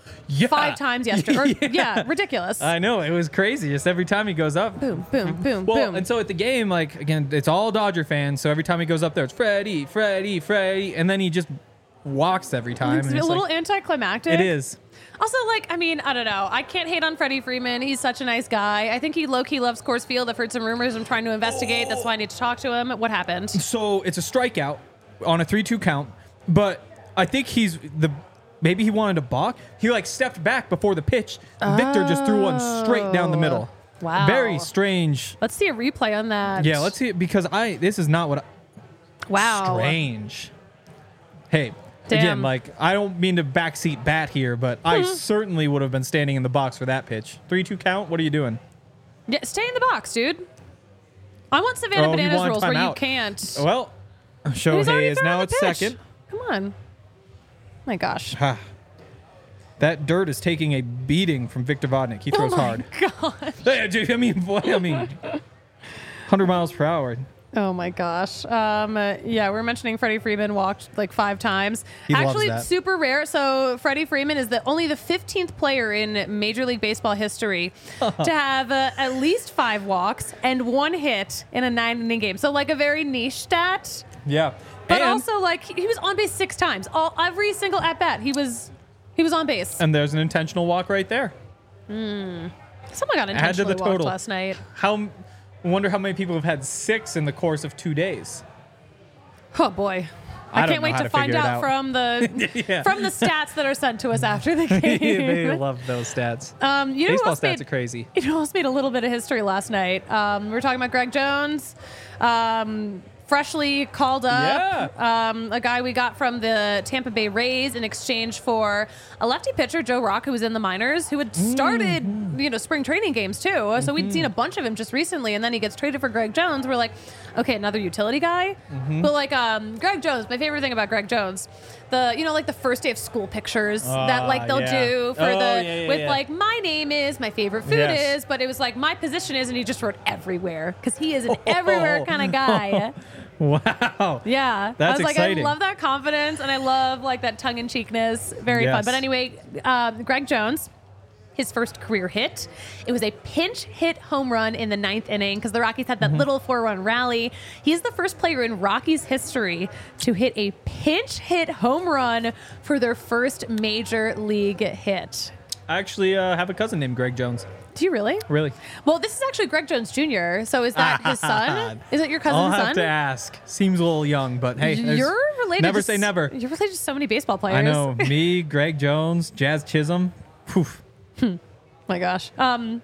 5 times yesterday. Yeah, ridiculous. I know. It was crazy. Just every time he goes up. Boom, boom, boom, well, boom. And so at the game, like, again, it's all Dodger fans. So every time he goes up there, it's Freddie, Freddie, Freddie. And then he just walks every time. It's a little anticlimactic. It is. Also, like, I mean, I don't know. I can't hate on Freddie Freeman. He's such a nice guy. I think he low-key loves Coors Field. I've heard some rumors. I'm trying to investigate. That's why I need to talk to him. What happened? So it's a strikeout on a 3-2 count. But I think maybe he wanted to balk. He like stepped back before the pitch. Victor just threw one straight down the middle. Wow. Very strange. Let's see a replay on that. Yeah, let's see it, because this is not what wow. Strange. Hey, damn. Again, like, I don't mean to backseat bat here, but I certainly would have been standing in the box for that pitch. 3-2 count? What are you doing? Yeah, stay in the box, dude. I want Savannah Bananas rules where you can't. Well, Shohei is now at second. Come on. My gosh. That dirt is taking a beating from Victor Vodnik. He throws hard. God. I mean, 100 miles per hour. Oh my gosh. Yeah, we're mentioning Freddie Freeman walked like 5 times. Actually, loves that. Super rare. So Freddie Freeman is only the 15th player in Major League Baseball history to have at least 5 walks and 1 hit in a 9-inning game. So like a very niche stat. Yeah. But also, like, he was on base 6 times. Every single at bat, he was on base. And there's an intentional walk right there. Someone got intentionally walked last night. I wonder how many people have had 6 in the course of 2 days. Oh boy. I can't wait to find out from the Yeah. from the stats that are sent to us after the They game. love those stats. You know who Baseball else stats made- are crazy. You know, else made a little bit of history last night. We were talking about Greg Jones, freshly called up. A guy we got from the Tampa Bay Rays in exchange for a lefty pitcher, Joe Rock, who was in the minors, who had started, spring training games too. So we'd seen a bunch of him just recently, and then he gets traded for Greg Jones. We're like, okay, another utility guy. But like Greg Jones, my favorite thing about Greg Jones, like the first day of school pictures that like they'll do for like my name is, my favorite food is, but it was like my position is, and he just wrote everywhere because he is an everywhere kind of guy. Wow. Yeah. That's I was like, exciting. I love that confidence and I love like that tongue in cheekness. Very fun. Yes. But anyway, Greg Jones, his first career hit. It was a pinch hit home run in the 9th inning because the Rockies had that little 4-run rally. He is the first player in Rockies history to hit a pinch hit home run for their first major league hit. I actually have a cousin named Greg Jones. Do you really? Really? Well, this is actually Greg Jones Jr. So is that his son? Is it your cousin's I'll have son? to ask. Seems a little young, but hey, You're related. never to say never. You're related to so many baseball players. I know. Me, Greg Jones, Jazz Chisholm. Poof. My gosh. Come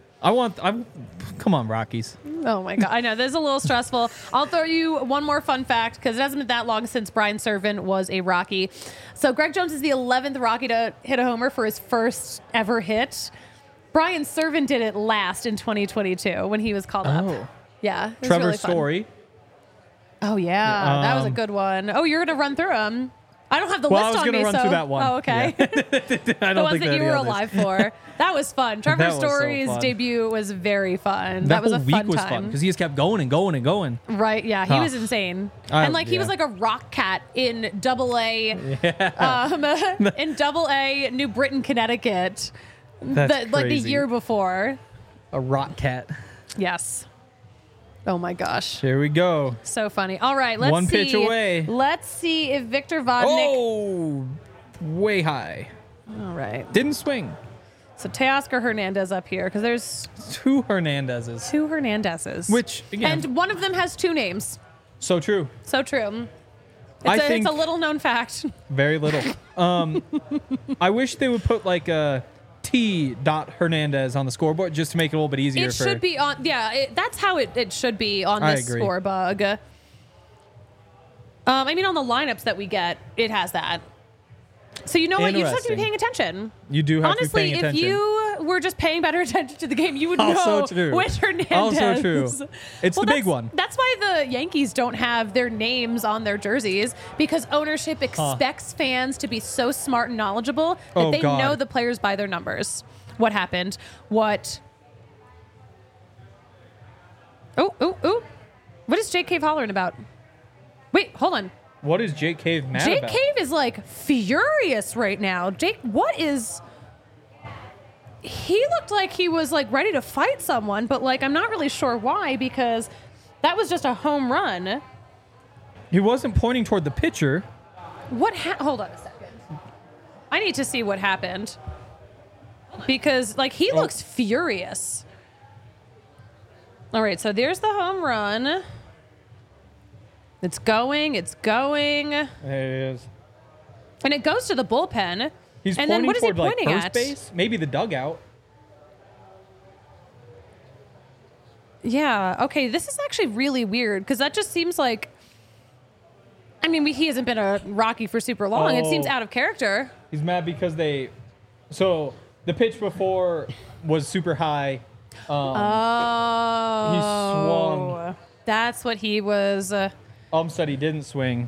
on, Rockies. Oh my God. I know. This is a little stressful. I'll throw you one more fun fact because it hasn't been that long since Brian Servin was a Rocky. So Greg Jones is the 11th Rocky to hit a homer for his first ever hit. Brian Servin did it last in 2022 when he was called up. Yeah. It was Trevor really fun. Story. Oh, yeah. That was a good one. Oh, you're going to run through them. I don't have the Well, I list was on gonna me, run so. through that one. Oh, okay. I The don't ones think that you any were others. alive for. That was fun. Trevor That was so Story's fun. debut was very fun. That was whole a week fun was time. fun because he just kept going and going and going. Right, yeah, he was insane, and like he was yeah. like a rock cat in Double-A, in Double-A, New Britain, Connecticut, That's like the crazy. year before. A rock cat. Yes. Oh my gosh, Here we go. so funny. All right, let's One see. pitch away. Let's see if Victor Vodnik. Oh, way high. All right, Didn't swing. so Teoscar Hernandez up here because there's Two Hernandezes. 2 Hernandezes, Which, again, and one of them has 2 names. so true. So true. I It's think a little known fact. very little. I wish they would put like a T. Hernandez on the scoreboard just to make it a little bit easier. It should be on. Yeah, that's how it should be on I this agree. score bug. I mean, on the lineups that we get, it has that. So you know what? You just have to be paying attention. You do have Honestly, to be paying if attention. you were just paying better attention to the game, you would Also know true. which Hernandez. Also true. It's the big that's- one. That's why the Yankees don't have their names on their jerseys because ownership expects fans to be so smart and knowledgeable that Oh, they God. know the players by their numbers. What happened? What? Oh. What is Jake Cave hollering about? Wait, hold on. What is Jake Cave mad Jake about? Cave is like furious right now. Jake, what is... He looked like he was like ready to fight someone, but like I'm not really sure why because that was just a home run. He wasn't pointing toward the pitcher. Hold on a second. I need to see what happened because like he looks furious. All right, so there's the home run. It's going. There it is. And it goes to the bullpen. He's and pointing then what is he toward like pointing first at? base, maybe the dugout. Yeah. Okay. This is actually really weird because that just seems like. I mean, he hasn't been a Rocky for super long. It seems Oh. out of character. He's mad because So the pitch before was super high. Oh. swung. That's what he was. Said he didn't swing.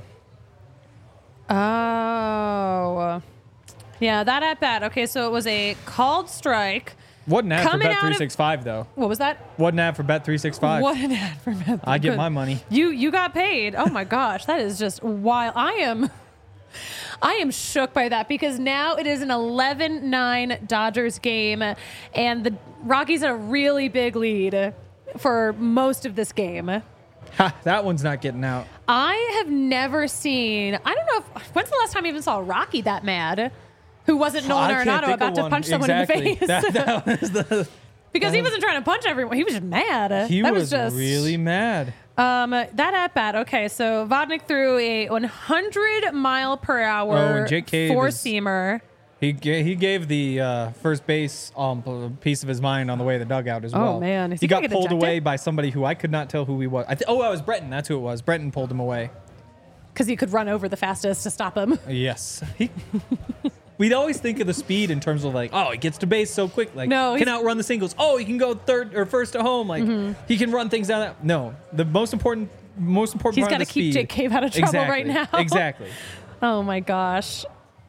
Oh. Yeah, that at bat. Okay, so it was a called strike. Wasn't ad for Coming Bet out of- 365 though. What was that? Wasn't ad for Bet 365. What an ad for Meth. I get my money. You got paid. Oh my gosh, that is just wild. I am shook by that because now it is an 11-9 Dodgers game, and the Rockies had a really big lead for most of this game. Ha, that one's not getting out. I have never seen. I don't know when's the last time you even saw a Rocky that mad, who wasn't Nolan I can't Arenado think about of to one. punch someone Exactly. in the face That was the. because he wasn't trying to punch everyone. He was just mad. He that was just really mad. That at bat. Okay, so Vodnik threw a 100-mile-per-hour Oh, and Jake Cave four-seamer. He gave the first base piece of his mind on the way to the dugout as well. Oh, man. Is he he gonna got get pulled ejected? away by somebody who I could not tell who he was. It was Breton. That's who it was. Breton pulled him away. Because he could run over the fastest to stop him. Yes. We'd always think of the speed in terms of like, oh, he gets to base so quick. Like, No, can he's- outrun the singles. Oh, he can go third or first to home. Like, he can run things down. That. No, the most important He's part got of to the keep speed. Jake Cave out of trouble right now. Exactly. Oh, my gosh.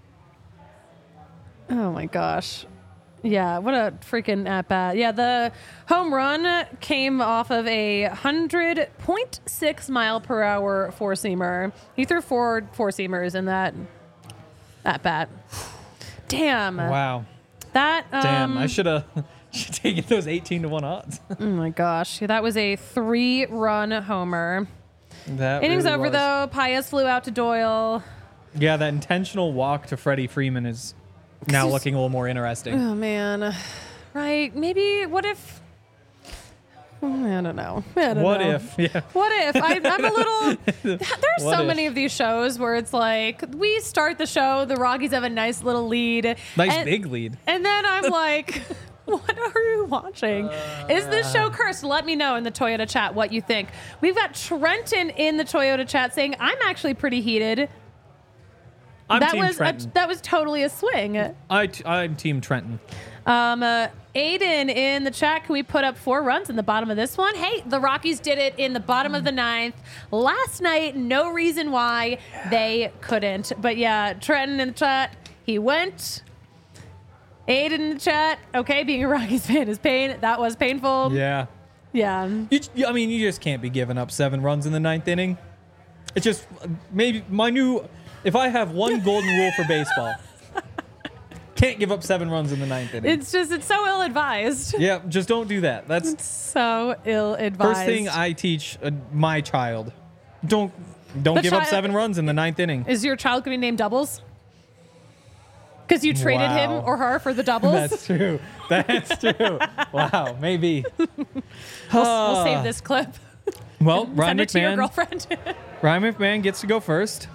Oh, my gosh. Yeah, what a freaking at-bat. Yeah, the home run came off of a 100.6 mile per hour four-seamer. He threw four four-seamers in that at-bat. Damn. Wow. That, Damn. I should have taken those 18-1 odds. oh, my gosh. That was a 3-run homer. That Innings really over, was. though. Paez flew out to Doyle. Yeah, that intentional walk to Freddie Freeman is now looking a little more interesting. Oh, man. Right. Maybe, what if... I don't know. I don't What know. if? Yeah. What if? I'm a little... There's What so if? many of these shows where it's like, we start the show, the Rockies have a nice little lead. Nice and, big lead. And then I'm like... What are you watching? Is this show cursed? Let me know in the Toyota chat what you think. We've got Trenton in the Toyota chat saying, I'm actually pretty heated. I'm that Team was Trenton. that was totally a swing. I'm Team Trenton. Aiden in the chat, can we put up 4 runs in the bottom of this one? Hey, the Rockies did it in the bottom of the 9th. Last night, no reason why they couldn't. But yeah, Trenton in the chat, he went. Aiden in the chat, okay, being a Rockies fan is pain. That was painful. Yeah. Yeah. I mean, you just can't be giving up 7 runs in the 9th inning. It's just maybe my new. If I have one golden rule for baseball, can't give up 7 runs in the 9th inning. It's so ill-advised. Yeah, just don't do that. That's So ill-advised. first thing I teach my child. Don't give up child- 7 runs in the 9th inning. Is your child going to be named Doubles? Because you traded him Wow. or her for the doubles? That's true. That's true. Wow, maybe. We'll save this clip. Well, Ryan Send it to your McMahon. girlfriend. Ryan McMahon gets to go first.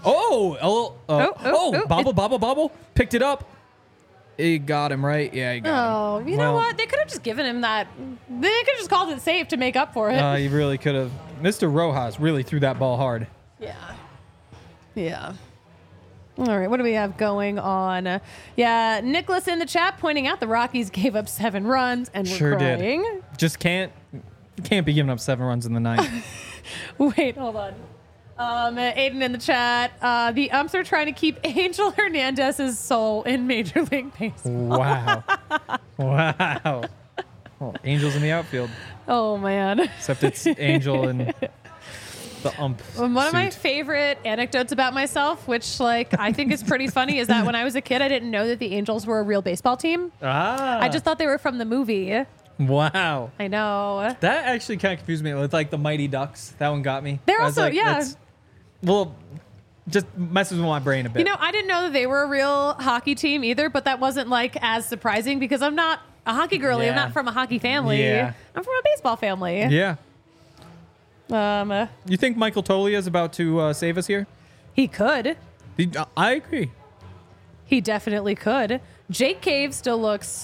Bobble picked it up. He got him right. Yeah, he got him. Oh, you know what? They could have just given him that. They could have just called it safe to make up for it. He really could have. Mr. Rojas really threw that ball hard. Yeah. Yeah. All right, what do we have going on? Yeah, Nicholas in the chat pointing out the Rockies gave up 7 runs and Sure we're did. crying. Just can't be giving up 7 runs in the 9th. Wait, hold on. Aiden in the chat. The umps are trying to keep Angel Hernandez's soul in Major League Baseball. Wow. Wow. Well, Angels in the outfield. Oh, man. Except it's Angel and the ump. One of my suit. favorite anecdotes about myself, which I think is pretty funny, is that when I was a kid, I didn't know that the Angels were a real baseball team. I just thought they were from the movie. Wow. I know. That actually kind of confused me with the Mighty Ducks. That one got me. They're I was also- like, yeah. that's- Well, just messes with my brain a bit. You know, I didn't know that they were a real hockey team either, but that wasn't as surprising because I'm not a hockey girly. I'm Yeah. not from a hockey family. Yeah. I'm from a baseball family. Yeah. Um, You think Michael Tolia is about to save us here? he could. I agree. He definitely could. Jake Cave still looks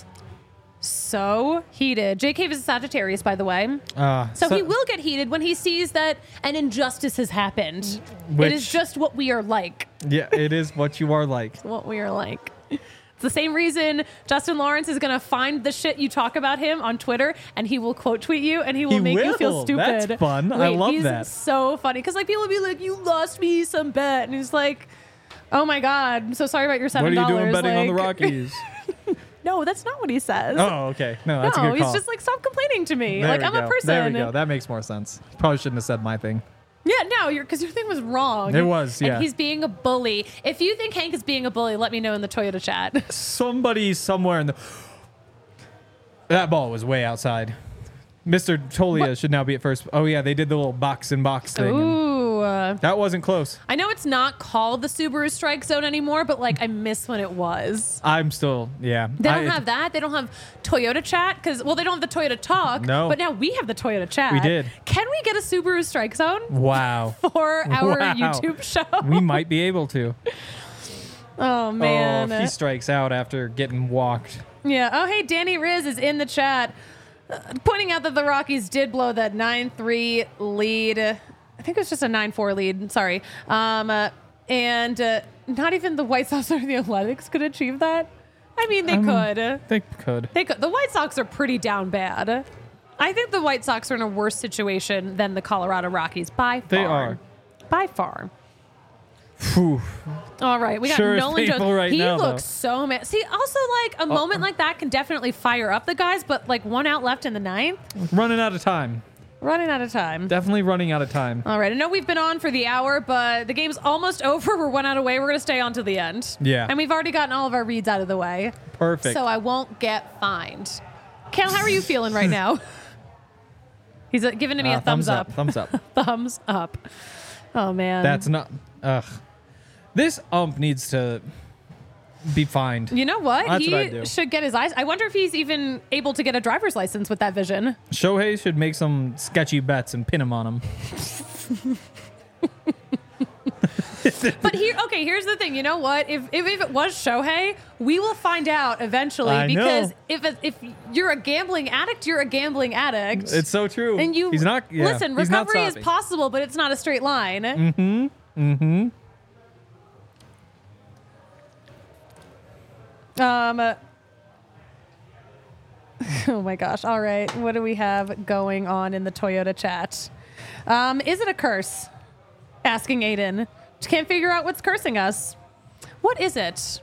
so heated. Jake Cave is a Sagittarius, by the way. So he will get heated when he sees that an injustice has happened. It is Which- just what we are like. Yeah, it is what you are like. What we are like. It's the same reason Justin Lawrence is going to find the shit you talk about him on Twitter and he will quote tweet you and he will make you feel will. stupid. That's fun. I love he's that. so funny because people will be like, "You lost me some bet," and he's like, "Oh my god, I'm so sorry about your $7." What are you doing betting on the Rockies? No, that's not what he says. Oh, okay. No, that's a No, good he's call. just like, stop complaining to me. There Like, we I'm go. a person. There we go. That makes more sense. Probably shouldn't have said my thing. Yeah, no, because your thing was wrong. It was, yeah. And he's being a bully. If you think Hank is being a bully, let me know in the Toyota chat. Somebody somewhere in the... That ball was way outside. Mr. Tolia should now be at first. Oh, yeah, they did the little box-in-box thing. Ooh. That wasn't close. I know it's not called the Subaru Strike Zone anymore, but like I miss when it was. I'm still, yeah. They don't have that. They don't have Toyota Chat because, well, they don't have the Toyota Talk. No. But now we have the Toyota Chat. We did. Can we get a Subaru Strike Zone Wow. for our Wow. YouTube show? We might be able to. Oh, man. Oh, he strikes out after getting walked. Yeah. Oh, hey, Danny Riz is in the chat pointing out that the Rockies did blow that 9-3 lead. I think it was just a 9-4 lead. Sorry. And not even the White Sox or the Athletics could achieve that. I mean, they could. They could. They could. The White Sox are pretty down bad. I think the White Sox are in a worse situation than the Colorado Rockies by far. They are. By far. Whew. All right, we got Sure is Nolan painful Jones. right He now, looks so mad. See, also like a moment like that can definitely fire up the guys, but like 1 out left in the 9th, Running out of time. running out of time. Definitely running out of time. All right, I know we've been on for the hour, but the game's almost over. We're 1 out away. We're gonna stay on to the end. Yeah. and we've already gotten all of our reads out of the way, Perfect. so I won't get fined. Cal, how are you feeling right now? He's giving me a thumbs up. Thumbs up. Thumbs up. Oh man, That's not. Ugh. This ump needs to be fined. You know what? That's He what I'd do. should get his eyes. I wonder if he's even able to get a driver's license with that vision. Shohei should make some sketchy bets and pin him on them. But here's the thing. You know what? If it was Shohei, we will find out eventually. I Because know. if you're a gambling addict, you're a gambling addict. It's so true. and you He's not. Yeah, listen. he's not Recovery is stopping. possible, but it's not a straight line. Mm-hmm. Oh my gosh. All right. What do we have going on in the Toyota chat? Is it a curse? Asking Aiden. Can't figure out what's cursing us. What is it?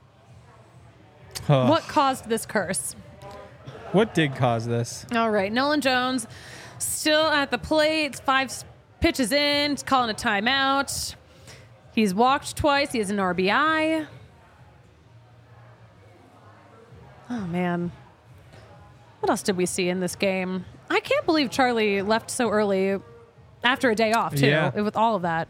Ugh. What caused this curse? What did cause this? All right. Nolan Jones still at the plate. It's 5 pitches in. He's calling a timeout. He's walked twice. He has an RBI. Oh, man. What else did we see in this game? I can't believe Charlie left so early after a day off, too, Yeah. with all of that.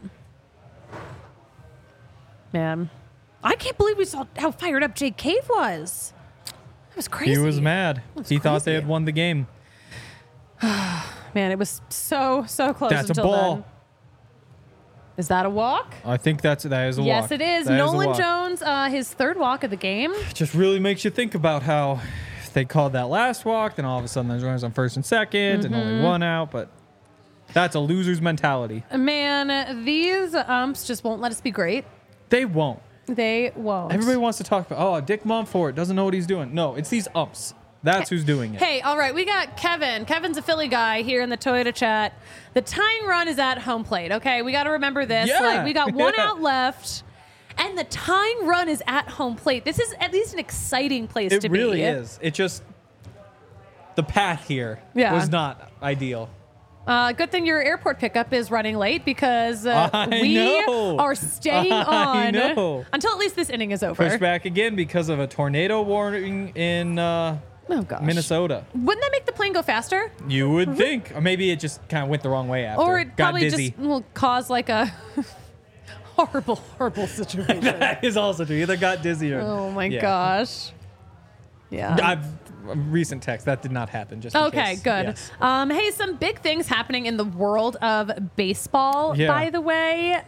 Man. I can't believe we saw how fired up Jake Cave was. That was crazy. He was mad. He thought they crazy. had won the game. Man, it was so close That's a until ball. then. Is that a walk? I think that is a walk. Yes, it is. That a Nolan walk. Jones, his 3rd walk of the game. Just really makes you think about how they called that last walk, then all of a sudden there's runners on 1st and 2nd, and only 1 out. But that's a loser's mentality. Man, these umps just won't let us be great. They won't. They won't. Everybody wants to talk about, Dick Mumford doesn't know what he's doing. No, it's these umps. That's who's doing it. Hey, all right, we got Kevin. Kevin's a Philly guy here in the Toyota chat. The tying run is at home plate, okay? We got to remember this. Yeah. Like, we got 1 Yeah. out left, and the tying run is at home plate. This is at least an exciting place It to be. really is. It just, the path here was not ideal. Good thing your airport pickup is running late because I we know. are staying I on know. until at least this inning is over. Pushed back again because of a tornado warning in Oh, gosh. Minnesota. Wouldn't that make the plane go faster? You would think. Or maybe it just kind of went the wrong way after. Or it got probably dizzy. just will cause like a horrible situation. That is also true. Either got dizzy or. Oh my Yeah. gosh. Yeah. Recent text that did not happen. Just in Okay, case. good. Yes. Hey, some big things happening in the world of baseball, Yeah. by the way.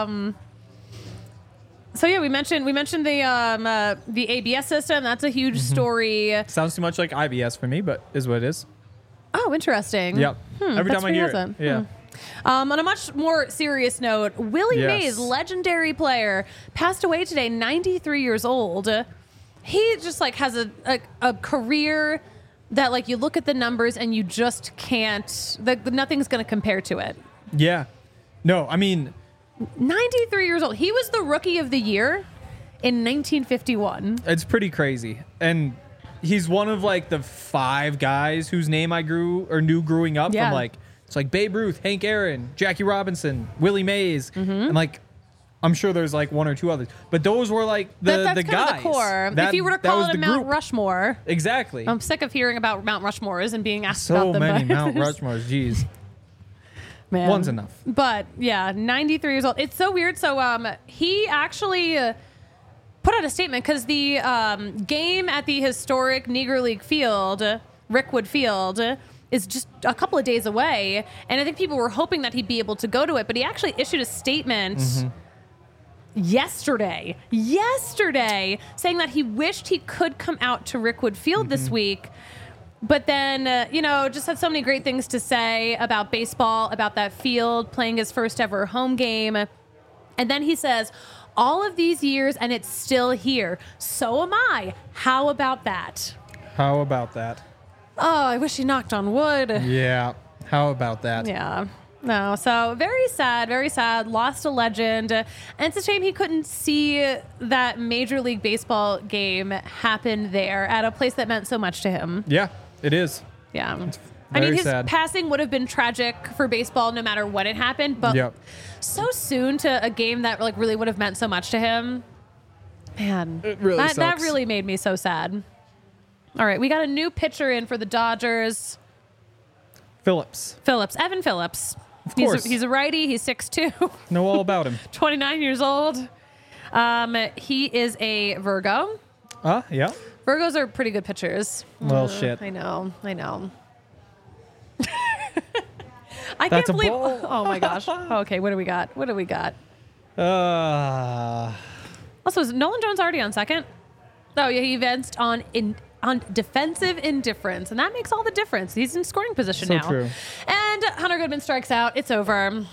So yeah, we mentioned the ABS system. That's a huge Mm-hmm. story. Sounds too much like IBS for me, but is what it is. Oh, interesting. Yep. Every that's time I hear pretty it. Yeah. On a much more serious note, Willie Yes. Mays, legendary player, passed away today, 93 years old. He just like has a career that like you look at the numbers and you just can't. Nothing's going to compare to it. Yeah. No, I mean, 93 years old. He was the rookie of the year in 1951. it's pretty crazy. And he's one of like the 5 guys whose name I knew growing up. Yeah. From like, it's like Babe Ruth, Hank Aaron, Jackie Robinson, Willie Mays. And like, I'm sure there's like 1 or 2 others. But those were like That's the kind guys. of the core. That- if you were to that call was it a the Mount group. Rushmore, Exactly. I'm sick of hearing about Mount Rushmores and being asked so about them. many but- Mount Rushmores. Jeez. Man. One's enough. But yeah, 93 years old. It's so weird. So he actually put out a statement because the game at the historic Negro League field, Rickwood Field, is just a couple of days away. And I think people were hoping that he'd be able to go to it. But he actually issued a statement yesterday saying that he wished he could come out to Rickwood Field this week. But then, just had so many great things to say about baseball, about that field, playing his first ever home game. And then he says, all of these years and it's still here. So am I. How about that? How about that? Oh, I wish he knocked on wood. Yeah. How about that? Yeah. No, so very sad, lost a legend. And it's a shame he couldn't see that Major League Baseball game happen there at a place that meant so much to him. Yeah, it is. Yeah. Very his sad. passing would have been tragic for baseball no matter when it happened, but Yep. so soon to a game that like really would have meant so much to him. Man, It really that sucks. really made me so sad. All right, we got a new pitcher in for the Dodgers. Phillips. Evan Phillips. Of course. He's a righty. He's 6'2", Know all about him. 29 years old. He is a Virgo. Yeah. Virgos are pretty good pitchers. Well, shit. I know. I That's can't a believe. ball. Oh my gosh. Okay, what do we got? Also, is Nolan Jones already on second? Oh yeah, he advanced on defensive indifference, and that makes all the difference. He's in scoring position So now. true. And Hunter Goodman strikes out. It's over.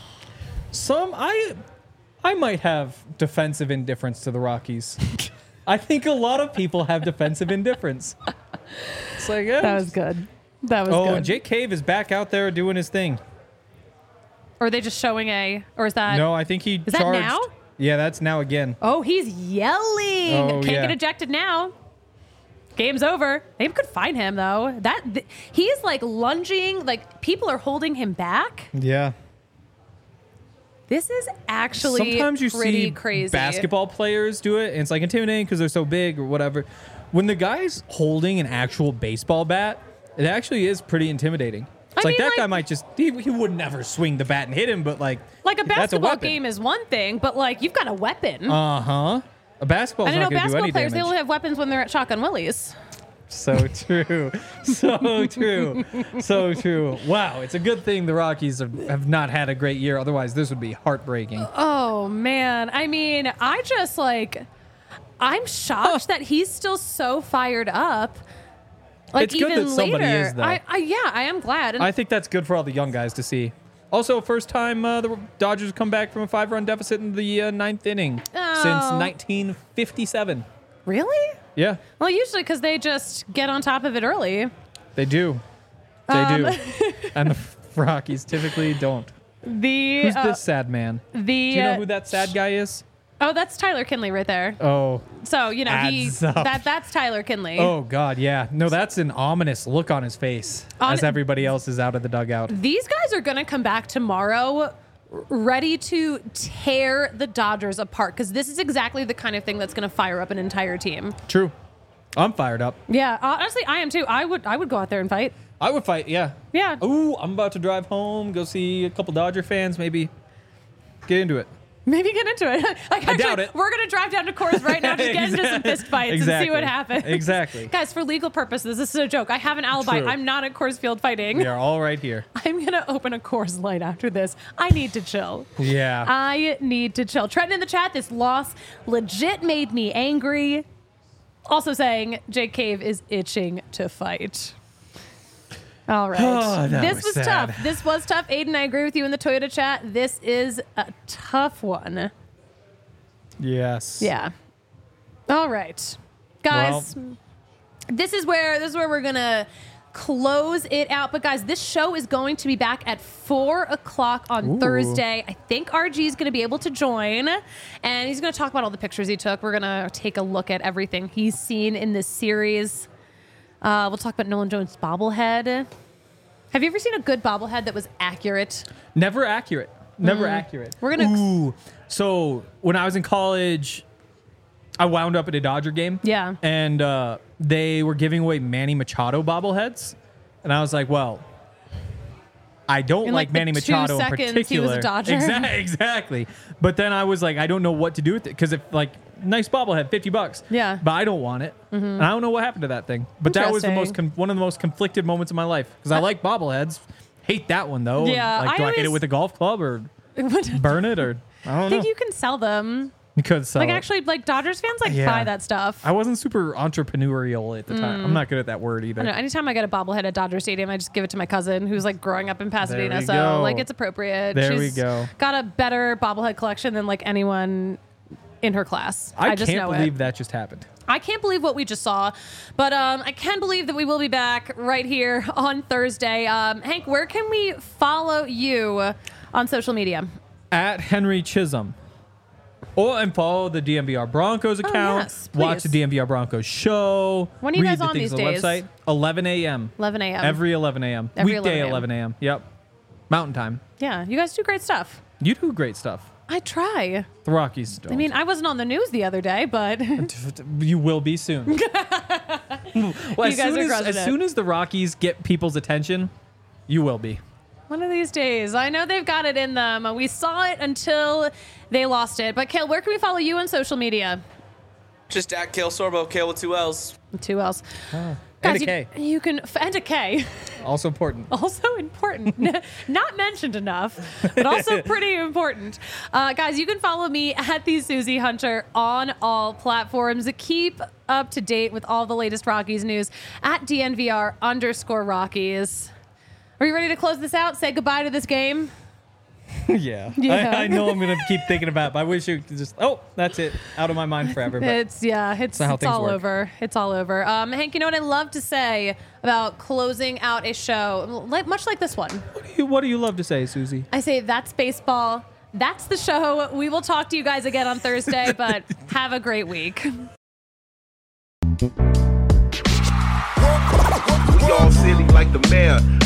I might have defensive indifference to the Rockies. I think a lot of people have defensive indifference. It's like, yeah. That was good. And Jake Cave is back out there doing his thing. Or are they just showing or is that? No, I think he Is that charged. now? Yeah, that's now again. Oh, he's yelling. Oh, Can't yeah. get ejected now. Game's over. Maybe could find him though. He is like lunging, like people are holding him back. Yeah. This is actually Sometimes you pretty see crazy. basketball players do it, and it's like intimidating because they're so big or whatever. When the guy's holding an actual baseball bat, it actually is pretty intimidating. It's I like mean, that guy like- might just he would never swing the bat and hit him, but like Like a that's basketball weapon. game is one thing, but like you've got a weapon. A basketball's I know not going to do basketball any players, they damage. only have weapons when they're at Shotgun Willies. So true. So true. So true. Wow. It's a good thing the Rockies have not had a great year. Otherwise, this would be heartbreaking. Oh, man. I mean, I'm shocked that he's still so fired up. Like, It's good even that somebody later. is, though. I am glad. And I think that's good for all the young guys to see. Also, first time the Dodgers come back from a 5-run deficit in the ninth inning since Oh. 1957. Really? Yeah, Well, usually because they just get on top of it early. they do. They do. And the Rockies typically don't. Who's this sad man? Do you know who that sad guy is? Oh, that's Tyler Kinley right there. Oh. So, Adds up. that's Tyler Kinley. Oh, God, yeah. No, that's an ominous look on his face as everybody else is out of the dugout. These guys are going to come back tomorrow ready to tear the Dodgers apart because this is exactly the kind of thing that's going to fire up an entire team. True. I'm fired up. Yeah, honestly, I am too. I would go out there and fight. I would fight, yeah. Yeah. Ooh, I'm about to drive home, go see a couple Dodger fans, maybe get into it. Maybe get into it. Like, I doubt it. We're going to drive down to Coors right now, just get into some fist fights and see what Exactly. happens. Exactly. Guys, for legal purposes, this is a joke. I have an alibi. True. I'm not at Coors Field fighting. We are all right here. I'm going to open a Coors Light after this. I need to chill. Yeah. I need to chill. Trenton in the chat, this loss legit made me angry. Also saying Jake Cave is itching to fight. All right. Oh, that this was was sad. tough. This was tough. Aiden, I agree with you in the Toyota chat. This is a tough one. Yes. Yeah. All right. Guys, this is where we're going to close it out. But guys, this show is going to be back at 4:00 on Ooh. Thursday. I think RG is going to be able to join, and he's going to talk about all the pictures he took. We're going to take a look at everything he's seen in this series. We'll talk about Nolan Jones' bobblehead. Have you ever seen a good bobblehead that was accurate? Never accurate. Never accurate. We're gonna- Ooh. So when I was in college, I wound up at a Dodger game. Yeah. And they were giving away Manny Machado bobbleheads. And I was like, well, I don't In, like like, the Manny 2 Machado in seconds particular. he was a Dodger. Exactly. But then I was like, I don't know what to do with it because if like nice bobblehead, $50. Yeah. But I don't want it, and I don't know what happened to that thing. But that was the most Interesting. one of the most conflicted moments of my life because I like bobbleheads. Hate that one though. Yeah, Like, do I hit it always- with a golf club or burn it or I I don't think know. you can sell them. You could sell Like it. actually, like Dodgers fans like Yeah. buy that stuff. I wasn't super entrepreneurial at the time. I'm not good at that word either. I don't know, anytime I get a bobblehead at Dodger Stadium, I just give it to my cousin who's like growing up in Pasadena. we So go. like it's appropriate. There we She's go. Got a better bobblehead collection than like anyone in her class. I just can't know believe it. that just happened. I can't believe what we just saw, but I can believe that we will be back right here on Thursday. Hank, where can we follow you on social media? At Henry Chisholm. And follow the DMVR Broncos account. yes, Watch the please. DMVR Broncos show. When are you read guys the on things these on the days? website. 11 a.m. 11 a.m. Every 11 a.m. Every Weekday 11 11 a.m. Yep. Mountain time. Yeah, you guys do great stuff. You do great stuff. I try. The Rockies don't. I mean, I wasn't on the news the other day, but you will be soon. Well, You guys are crushing as it. soon as the Rockies get people's attention, you will be. one of these days, I know they've got it in them. We saw it until they lost it. But Kale, where can we follow you on social media? Just at Kale Sorbo, Kale with 2 L's. 2 L's. And Guys, a K. You can and a K. Also important. Also important. Not mentioned enough, but also pretty important. Guys, you can follow me at the Susie Hunter on all platforms. Keep up to date with all the latest Rockies news at DNVR_Rockies. Are you ready to close this out? Say goodbye to this game? Yeah. Yeah. I know I'm going to keep thinking about it, but I wish you could just, that's it. Out of my mind forever. But It's how it's things all work. over. It's all over. Hank, you know what I love to say about closing out a show, much like this one? what do you love to say, Susie? I say that's baseball. That's the show. We will talk to you guys again on Thursday, but have a great week. We all silly like the mayor.